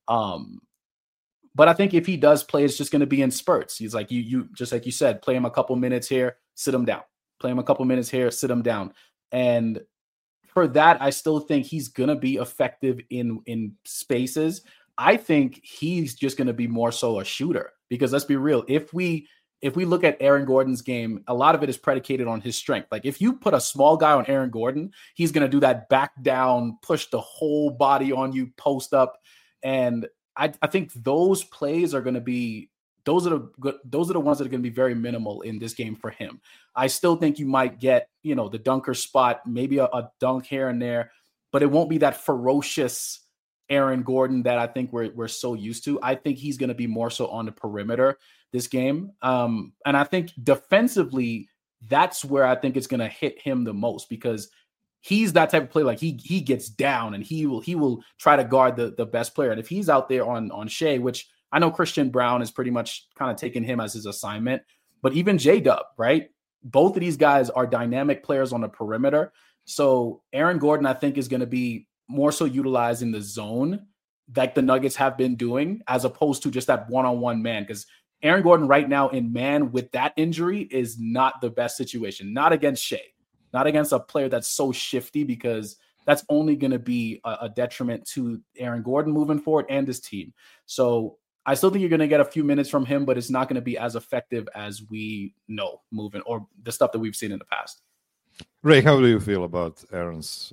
But I think if he does play, it's just going to be in spurts. He's like, you just like you said, play him a couple minutes here, sit him down. Play him a couple minutes here, sit him down. And for that, I still think he's going to be effective in spaces. I think he's just going to be more so a shooter, because let's be real. If we look at Aaron Gordon's game, a lot of it is predicated on his strength. Like, if you put a small guy on Aaron Gordon, he's going to do that back down, push the whole body on you, post up. And I think those plays are going to be, those are the ones that are going to be very minimal in this game for him. I still think you might get, the dunker spot, maybe a dunk here and there, but it won't be that ferocious Aaron Gordon that I think we're so used to. I think he's going to be more so on the perimeter this game. And I think defensively, that's where I think it's going to hit him the most, because he's that type of player. Like, he gets down and he will try to guard the best player. And if he's out there on Shea, which I know Christian Brown is pretty much kind of taking him as his assignment, but even J-Dub, right? Both of these guys are dynamic players on the perimeter. So Aaron Gordon, I think, is going to be more so utilized in the zone, like the Nuggets have been doing, as opposed to just that one-on-one man. Because Aaron Gordon right now in man with that injury is not the best situation. Not against Shea, not against a player that's so shifty, because that's only going to be a detriment to Aaron Gordon moving forward and his team. So I still think you're going to get a few minutes from him, but it's not going to be as effective as we know moving, or the stuff that we've seen in the past. Ray, how do you feel about Aaron's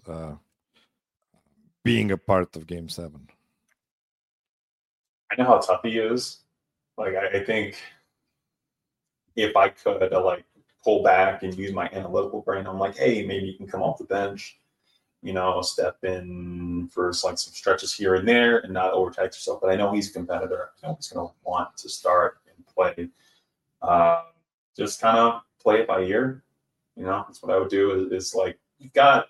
being a part of Game 7? I know how tough he is. Like, I think if I could pull back and use my analytical brain, I'm like, hey, maybe you can come off the bench, step in for some stretches here and there and not overtax yourself. But I know he's a competitor. I know he's going to want to start and play. Just kind of play it by ear. That's what I would do is you've got,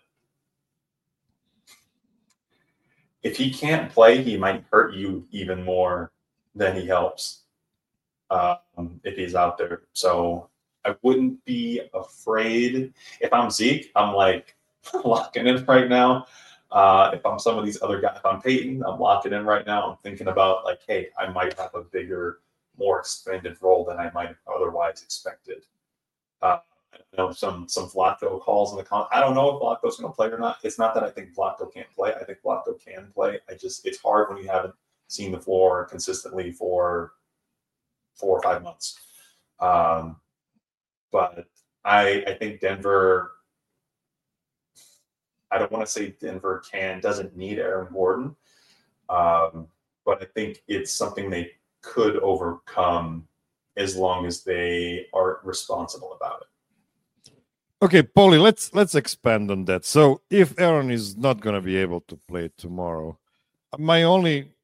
if he can't play, he might hurt you even more than he helps. if he's out there. So I wouldn't be afraid. If I'm Zeke, I'm like locking in right now. If I'm some of these other guys, if I'm Peyton, I'm locking in right now. I'm thinking about like, hey, I might have a bigger, more expanded role than I might have otherwise expected. I know some Vlatko calls in the comments. I don't know if Vlatko's going to play or not. It's not that I think Vlatko can't play. I think Vlatko can play. It's hard when you haven't seen the floor consistently for 4 or 5 months. But I think Denver, I don't want to say Denver doesn't need Aaron Gordon, but I think it's something they could overcome as long as they are responsible about it. Okay, Paulie, let's expand on that. So if Aaron is not going to be able to play tomorrow, my only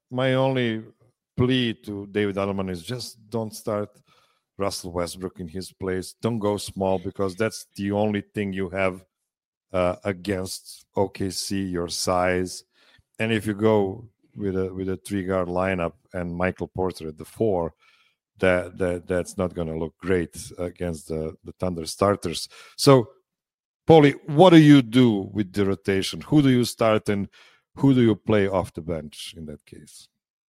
plea to David Adelman is just don't start Russell Westbrook in his place. Don't go small, because that's the only thing you have against OKC, your size. And if you go with a 3-guard lineup and Michael Porter at the 4, that's not going to look great against the Thunder starters. So, Paulie, what do you do with the rotation? Who do you start and who do you play off the bench in that case?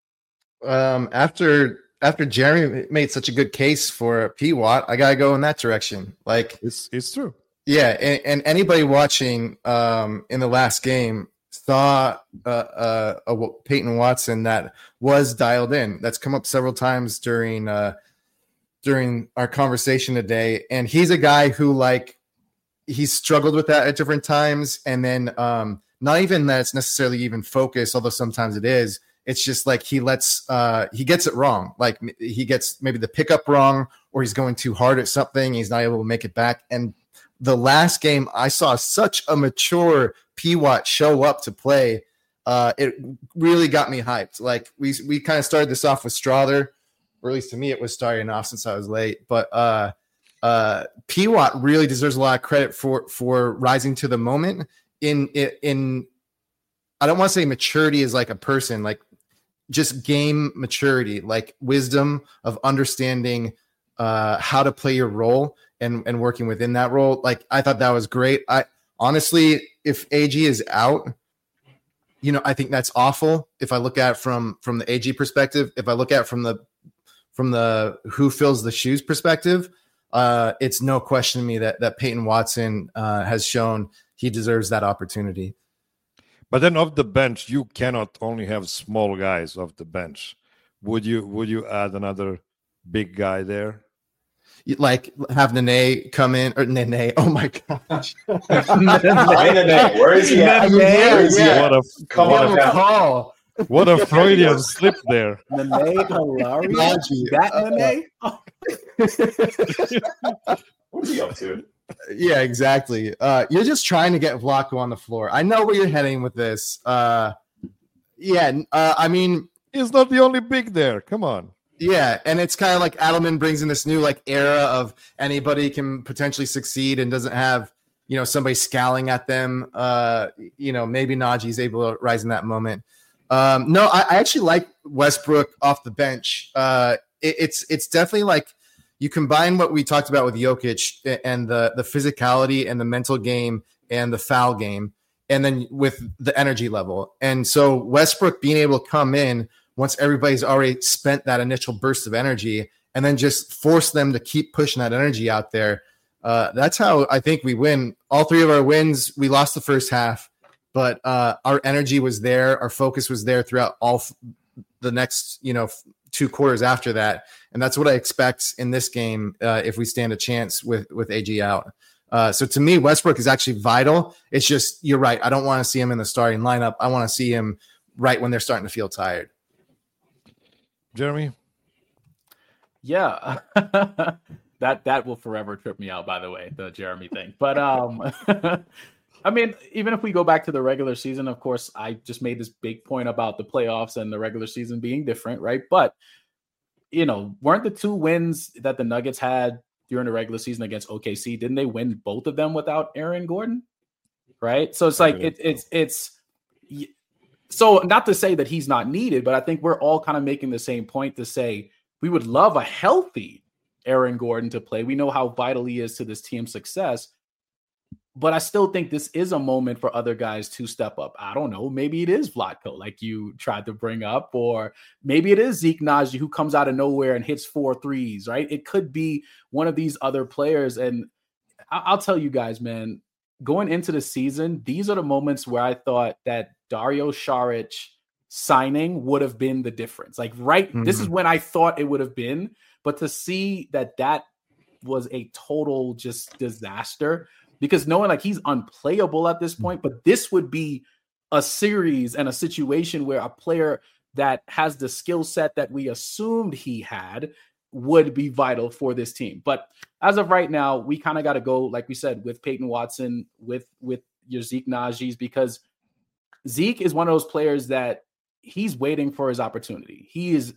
After Jeremy made such a good case for P-Watt, I gotta go in that direction. Like, it's true. Yeah, and anybody watching in the last game saw a Peyton Watson that was dialed in. That's come up several times during our conversation today, and he's a guy who, like, he's struggled with that at different times, and then not even that it's necessarily even focused, although sometimes it is. It's just like he gets it wrong. Like, he gets maybe the pickup wrong, or he's going too hard at something. He's not able to make it back. And the last game, I saw such a mature P-Watt show up to play. It really got me hyped. Like, we kind of started this off with Strawther, or at least to me, it was starting off since I was late. But P-Watt really deserves a lot of credit for rising to the moment. In I don't want to say maturity is like a person, like just game maturity, like wisdom of understanding how to play your role and working within that role. Like, I thought that was great. I honestly, if AG is out, I think that's awful. If I look at it from the AG perspective, if I look at it from the who fills the shoes perspective, it's no question to me that Peyton Watson has shown he deserves that opportunity. But then off the bench, you cannot only have small guys off the bench. Would you add another big guy there? Like, have Nene come in, or Nene? Oh my gosh! Nene, where is he at? Come on down. What a Freudian slip there. Nene Hilary? That Nene? What's he up to? Yeah, exactly. You're just trying to get Vlatko on the floor. I know where you're heading with this. I mean, he's not the only big there. Come on. Yeah, and it's kind of like Adelman brings in this new era of anybody can potentially succeed and doesn't have somebody scowling at them. Maybe Najee's able to rise in that moment. No, I actually like Westbrook off the bench. It's definitely like, you combine what we talked about with Jokic and the physicality and the mental game and the foul game, and then with the energy level. And so Westbrook being able to come in once everybody's already spent that initial burst of energy, and then just force them to keep pushing that energy out there. That's how I think we win. All 3 of our wins, we lost the first half, but our energy was there. Our focus was there throughout all the next, 2 quarters after that. And that's what I expect in this game if we stand a chance with AG out. So to me, Westbrook is actually vital. It's just, you're right. I don't want to see him in the starting lineup. I want to see him right when they're starting to feel tired. Jeremy? Yeah. That will forever trip me out, by the way, the Jeremy thing. But I mean, even if we go back to the regular season, of course, I just made this big point about the playoffs and the regular season being different, right? But, weren't the 2 wins that the Nuggets had during the regular season against OKC, didn't they win both of them without Aaron Gordon? Right? So it's like, it's so not to say that he's not needed, but I think we're all kind of making the same point to say We would love a healthy Aaron Gordon to play. We know how vital he is to this team's success. But I still think this is a moment for other guys to step up. I don't know. Maybe it is Vlatko, like you tried to bring up, or maybe it is Zeke Nnaji who comes out of nowhere and hits 4 threes, right? It could be one of these other players. And I'll tell you guys, man, going into the season, these are the moments where I thought that Dario Saric signing would have been the difference. Like, this is when I thought it would have been. But to see that was a total just disaster, because knowing like he's unplayable at this point, but this would be a series and a situation where a player that has the skill set that we assumed he had would be vital for this team. But as of right now, we kind of got to go, like we said, with Peyton Watson, with your Zeke Nnaji's, because Zeke is one of those players that he's waiting for his opportunity. He's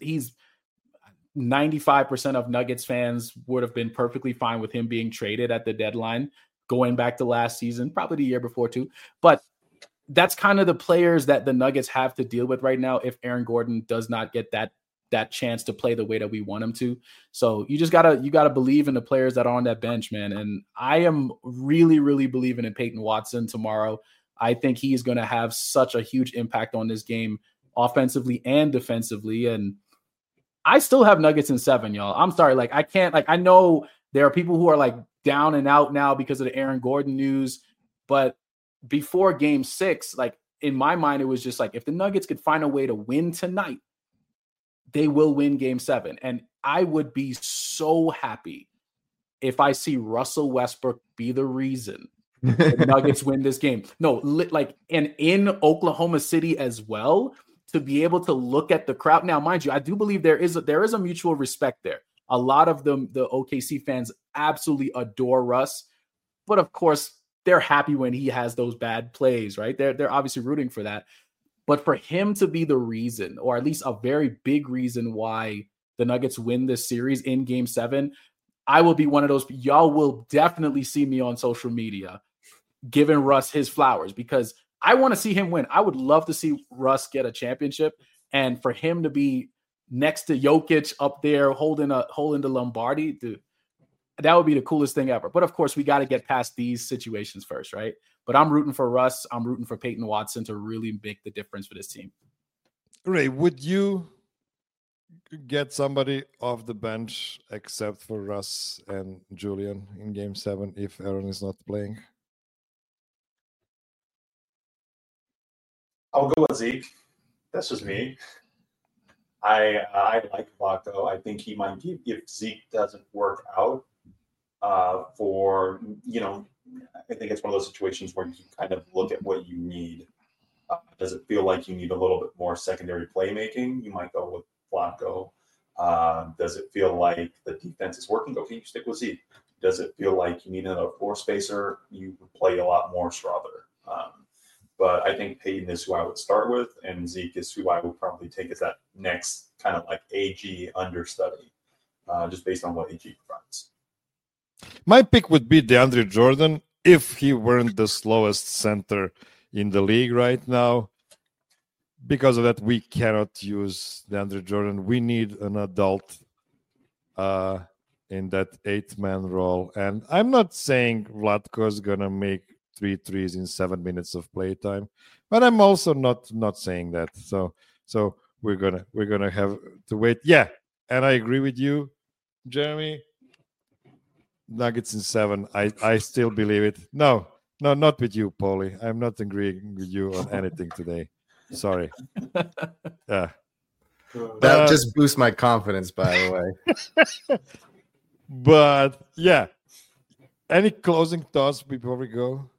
95% of Nuggets fans would have been perfectly fine with him being traded at the deadline, going back to last season, probably the year before too. But that's kind of the players that the Nuggets have to deal with right now if Aaron Gordon does not get that chance to play the way that we want him to. So you gotta believe in the players that are on that bench, man. And I am really, really believing in Peyton Watson tomorrow. I think he's going to have such a huge impact on this game, offensively and defensively. And I still have Nuggets in 7, y'all. I'm sorry. Like, I can't, like, I know there are people who are like down and out now because of the Aaron Gordon news, but before game 6, like in my mind, it was just like, if the Nuggets could find a way to win tonight, they will win game 7. And I would be so happy if I see Russell Westbrook be the reason the Nuggets win this game. No, like, and in Oklahoma City as well, to be able to look at the crowd. Now, mind you, I do believe there is a mutual respect there. A lot of the OKC fans absolutely adore Russ, but of course they're happy when he has those bad plays, right? They're obviously rooting for that. But for him to be the reason, or at least a very big reason why the Nuggets win this series in game 7, I will be one of those. Y'all will definitely see me on social media giving Russ his flowers, because I want to see him win. I would love to see Russ get a championship, and for him to be next to Jokic up there holding the Lombardi, dude, that would be the coolest thing ever. But of course, we got to get past these situations first, right? But I'm rooting for Russ. I'm rooting for Peyton Watson to really make the difference for this team. Ray, would you get somebody off the bench except for Russ and Julian in game 7 if Aaron is not playing? I'll go with Zeke. That's just me. I like Vlatko. I think he might give, if Zeke doesn't work out I think it's one of those situations where you kind of look at what you need. Does it feel like you need a little bit more secondary playmaking? You might go with Vlatko. Does it feel like the defense is working? Okay, you stick with Zeke. Does it feel like you need another floor spacer? You would play a lot more Strother. But I think Peyton is who I would start with, and Zeke is who I would probably take as that next kind of like AG understudy, just based on what AG provides. My pick would be DeAndre Jordan if he weren't the slowest center in the league right now. Because of that, we cannot use DeAndre Jordan. We need an adult in that 8-man role. And I'm not saying Vlatko is going to make 3 threes in 7 minutes of playtime, but I'm also not saying that. So we're gonna have to wait. Yeah, and I agree with you, Jeremy. Nuggets in 7. I still believe it. No, not with you, Paulie. I'm not agreeing with you on anything today. Sorry. Yeah. That just boosts my confidence, by the way. But yeah. Any closing thoughts before we go?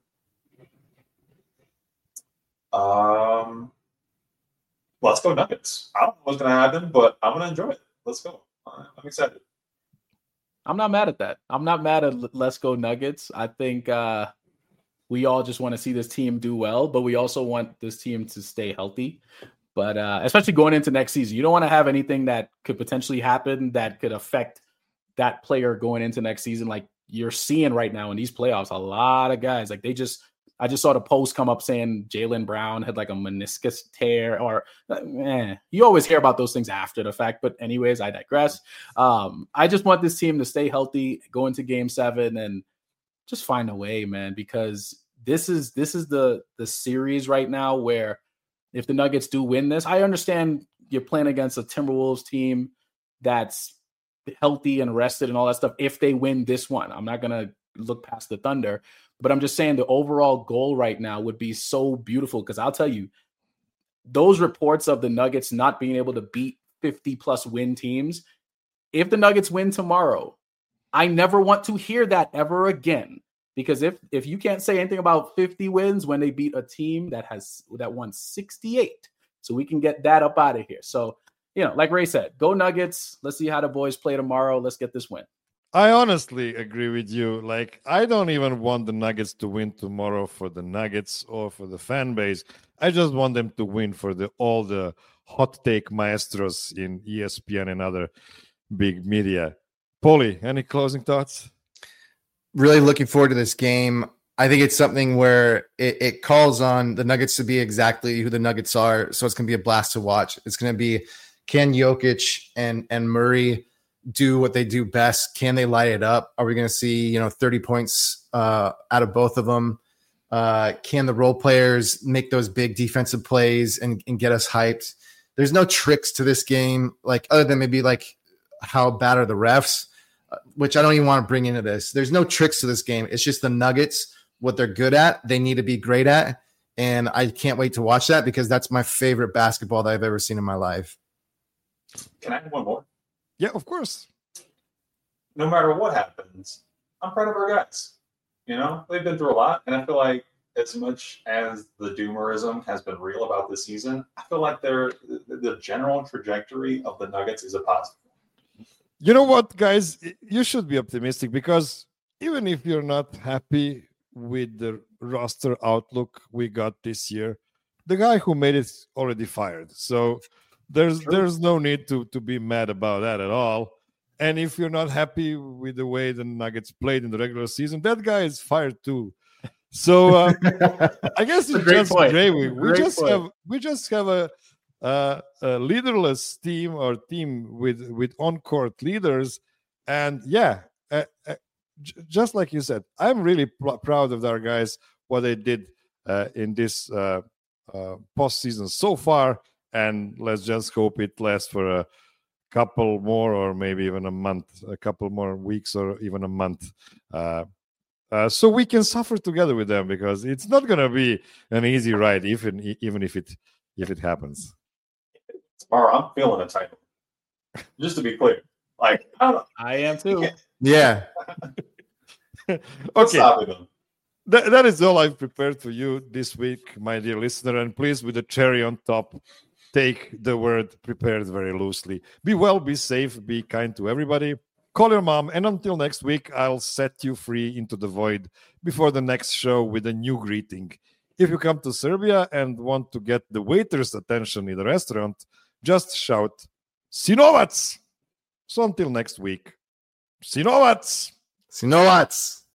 Let's go Nuggets. I don't know what's going to happen, but I'm going to enjoy it. Let's go. I'm excited. I'm not mad at that. I'm not mad at let's go Nuggets. I think we all just want to see this team do well, but we also want this team to stay healthy. But especially going into next season, you don't want to have anything that could potentially happen that could affect that player going into next season. Like you're seeing right now in these playoffs, a lot of guys, like they just I just saw the post come up saying Jaylen Brown had like a meniscus tear, or you always hear about those things after the fact. But anyways, I digress. I just want this team to stay healthy, go into Game 7, and just find a way, man, because this is the series right now where if the Nuggets do win this, I understand you're playing against a Timberwolves team that's healthy and rested and all that stuff. If they win this one, I'm not going to look past the Thunder, but I'm just saying the overall goal right now would be so beautiful, because I'll tell you, those reports of the Nuggets not being able to beat 50-plus win teams, if the Nuggets win tomorrow, I never want to hear that ever again, because if you can't say anything about 50 wins when they beat a team that won 68, so we can get that up out of here. So, like Ray said, go Nuggets. Let's see how the boys play tomorrow. Let's get this win. I honestly agree with you. Like, I don't even want the Nuggets to win tomorrow for the Nuggets or for the fan base. I just want them to win for all the hot take maestros in ESPN and other big media. Paulie, any closing thoughts? Really looking forward to this game. I think it's something where it calls on the Nuggets to be exactly who the Nuggets are. So it's going to be a blast to watch. It's going to be, can Jokic and Murray do what they do best? Can they light it up? Are we going to see 30 points out of both of them? Can the role players make those big defensive plays and get us hyped? There's no tricks to this game, like other than maybe like how bad are the refs, which I don't even want to bring into this. There's no tricks to this game. It's just the Nuggets, what they're good at, they need to be great at. And I can't wait to watch that, because that's my favorite basketball that I've ever seen in my life. Can I add one more? Yeah, of course. No matter what happens, I'm proud of our guys. They've been through a lot, and I feel like as much as the doomerism has been real about this season, I feel like the general trajectory of the Nuggets is a positive. You know what, guys? You should be optimistic, because even if you're not happy with the roster outlook we got this year, the guy who made it already fired. So there's no need to be mad about that at all. And if you're not happy with the way the Nuggets played in the regular season, that guy is fired too. So I guess it's just great. We just have a leaderless team, or team with on-court leaders. And just like you said, I'm really proud of our guys, what they did in this postseason so far. And let's just hope it lasts for a couple more, or maybe even a month, a couple more weeks, or even a month. So we can suffer together with them, because it's not going to be an easy ride, even if it happens. Tomorrow, I'm feeling a title. Just to be clear, like I am too. Yeah. Okay. That is all I've prepared for you this week, my dear listener. And please, with the cherry on top, take the word prepared very loosely. Be well, be safe, be kind to everybody. Call your mom, and until next week, I'll set you free into the void before the next show with a new greeting. If you come to Serbia and want to get the waiter's attention in the restaurant, just shout, Sinovac! So until next week, Sinovac! Sinovac!